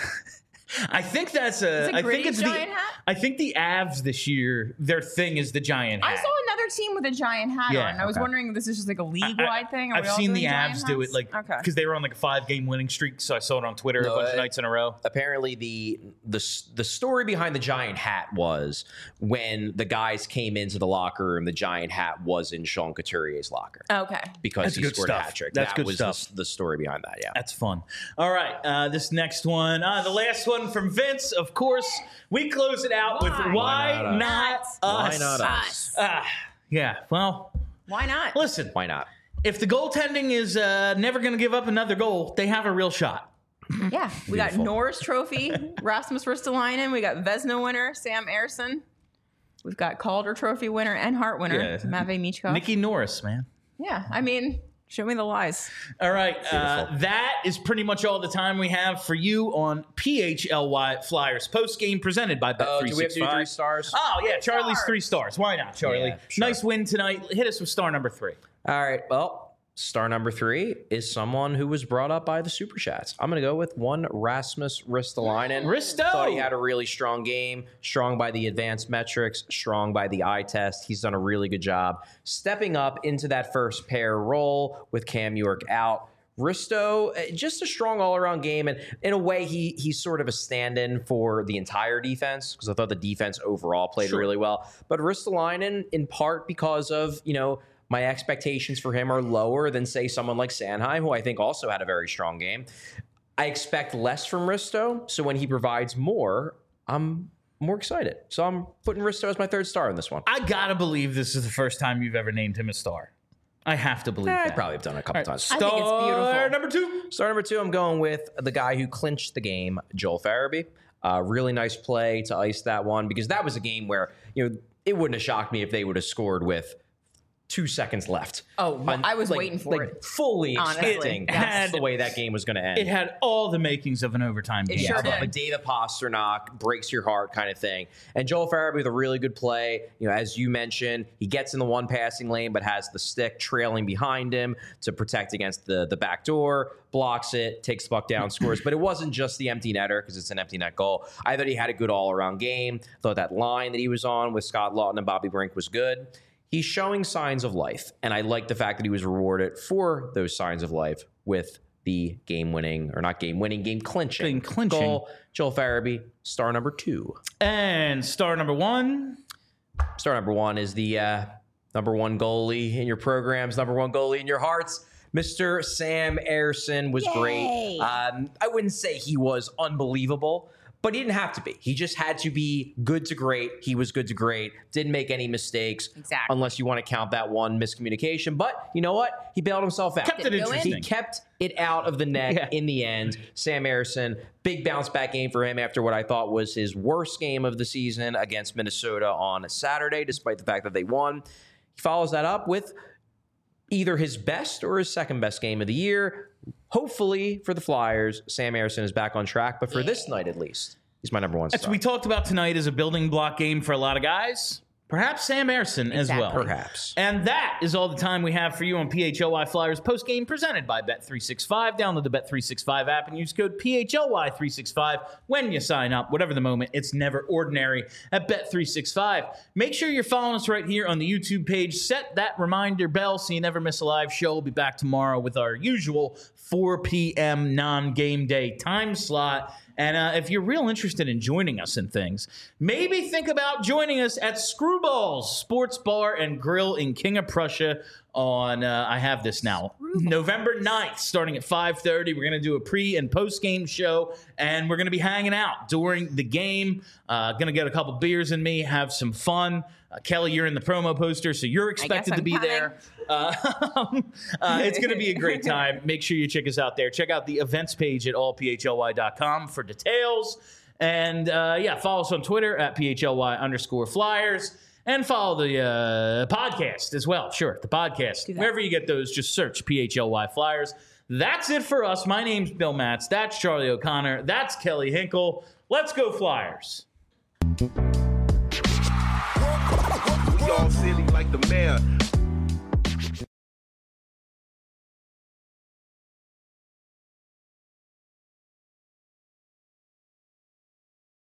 I think that's a. Is it I think Gritty's it's giant the. hat? I think the Avs this year, their thing is the giant hat. I saw another team with a giant hat Yeah, on. And I was okay. wondering if this is just like a league-wide thing. Are I've we all seen doing the giant Avs do hats? it like okay. because they were on like a five game winning streak, so I saw it on Twitter No, a bunch of I- nights in a row. Apparently, the the the story behind the giant hat was when the guys came into the locker room, the giant hat was in Sean Couturier's locker Okay. because That's he good scored stuff. a hat trick. That's that good was stuff. The, the story behind that. Yeah. That's fun. All right, uh, this next one, uh, the last one from Vince. Of course, we close it out with Why? "Why, Why not not, us? us?" Why not us? Ah, yeah. Well, Why not? listen. Why not? If the goaltending is uh, never going to give up another goal, they have a real shot. Yeah. We got Beautiful. Norris Trophy, Rasmus Ristolainen. We got Vesna winner, Sam Ersson. We've got Calder Trophy winner and Hart winner, Yeah. Matvey Michkov. Nikki Norris, man. Yeah. I mean, show me the lies. All right, uh, Beautiful. that is pretty much all the time we have for you on P H L Y Flyers post game presented by Bet Oh, three do we have to do sixty-five. three stars? Oh yeah, Charlie's stars. three stars. Why not, Charlie? Yeah, sure. Nice win tonight. Hit us with star number three. All right. Well, star number three is someone who was brought up by the Super Chats. I'm going to go with one Rasmus Ristolainen. Risto! Thought he had a really strong game, strong by the advanced metrics, strong by the eye test. He's done a really good job stepping up into that first pair role with Cam York out. Risto, uh, just a strong all-around game, and in a way, he he's sort of a stand-in for the entire defense because I thought the defense overall played Sure. really well. But Ristolainen, in part because of you know my expectations for him are lower than say someone like Sanheim, who I think also had a very strong game. I expect less from Risto, so when he provides more, I'm more excited. So I'm putting Risto as my third star in this one. I gotta believe this is the first time you've ever named him a star. I have to believe I that. probably have done it a couple All right, times. Star I think it's beautiful. number two. Star number two, I'm going with the guy who clinched the game, Joel Farabee. Uh, really nice play to ice that one because that was a game where you know it wouldn't have shocked me if they would have scored with two seconds left. Oh, well, On- I was like- waiting for like, it. fully Honestly. expecting Yes. that's the way that game was going to end. It had all the makings of an overtime game. sure Yeah, did. like David Pasternak breaks your heart kind of thing. And Joel Farabee with a really good play. You know, as you mentioned, he gets in the one passing lane, but has the stick trailing behind him to protect against the the back door, blocks it, takes the puck down, scores. But it wasn't just the empty netter because it's an empty net goal. I thought he had a good all around game. Thought that line that he was on with Scott Lawton and Bobby Brink was good. He's showing signs of life, and I like the fact that he was rewarded for those signs of life with the game-winning, or not game-winning, game-clinching Game clinching. goal. Joel Farabee, star number two. And star number one. Star number one is the uh, number one goalie in your programs, number one goalie in your hearts. Mister Sam Ersson was great. Um, I wouldn't say he was unbelievable, but he didn't have to be. He just had to be good to great. He was good to great. Didn't make any mistakes. Exactly. Unless you want to count that one miscommunication. But you know what? He bailed himself out. Kept it Didn't go in. interesting. He kept it out of the net Yeah. in the end. Sam Ersson, big bounce back game for him after what I thought was his worst game of the season against Minnesota on Saturday, despite the fact that they won. He follows that up with either his best or his second best game of the year. Hopefully for the Flyers, Sam Ersson is back on track, but for this night at least, he's my number one As star. we talked about tonight is a building block game for a lot of guys. Perhaps Sam Ersson as well. Exactly. Perhaps. And that is all the time we have for you on P H L Y Flyers post game presented by Bet three sixty-five. Download the Bet three sixty-five app and use code P H L Y three sixty-five when you sign up. Whatever the moment, it's never ordinary at Bet three sixty-five. Make sure you're following us right here on the YouTube page. Set that reminder bell so you never miss a live show. We'll be back tomorrow with our usual four p.m. non-game day time slot. And uh, if you're real interested in joining us in things, maybe think about joining us at Screwballs Sports Bar and Grill in King of Prussia on, uh, I have this now, November ninth, starting at five thirty. We're going to do a pre- and post-game show, and we're going to be hanging out during the game. Uh, going to get a couple beers in me, have some fun. Uh, Kelly, you're in the promo poster, so you're expected to I'm be coming. there. Uh, uh, it's going to be a great time. Make sure you check us out there. Check out the events page at all p h l y dot com for details. And, uh, yeah, follow us on Twitter at P H L Y underscore Flyers. And follow the uh, podcast as well. Sure, the podcast. Wherever you get those, just search P H L Y Flyers. That's it for us. My name's Bill Matz. That's Charlie O'Connor. That's Kelly Hinkle. Let's go Flyers. We all silly like the mayor.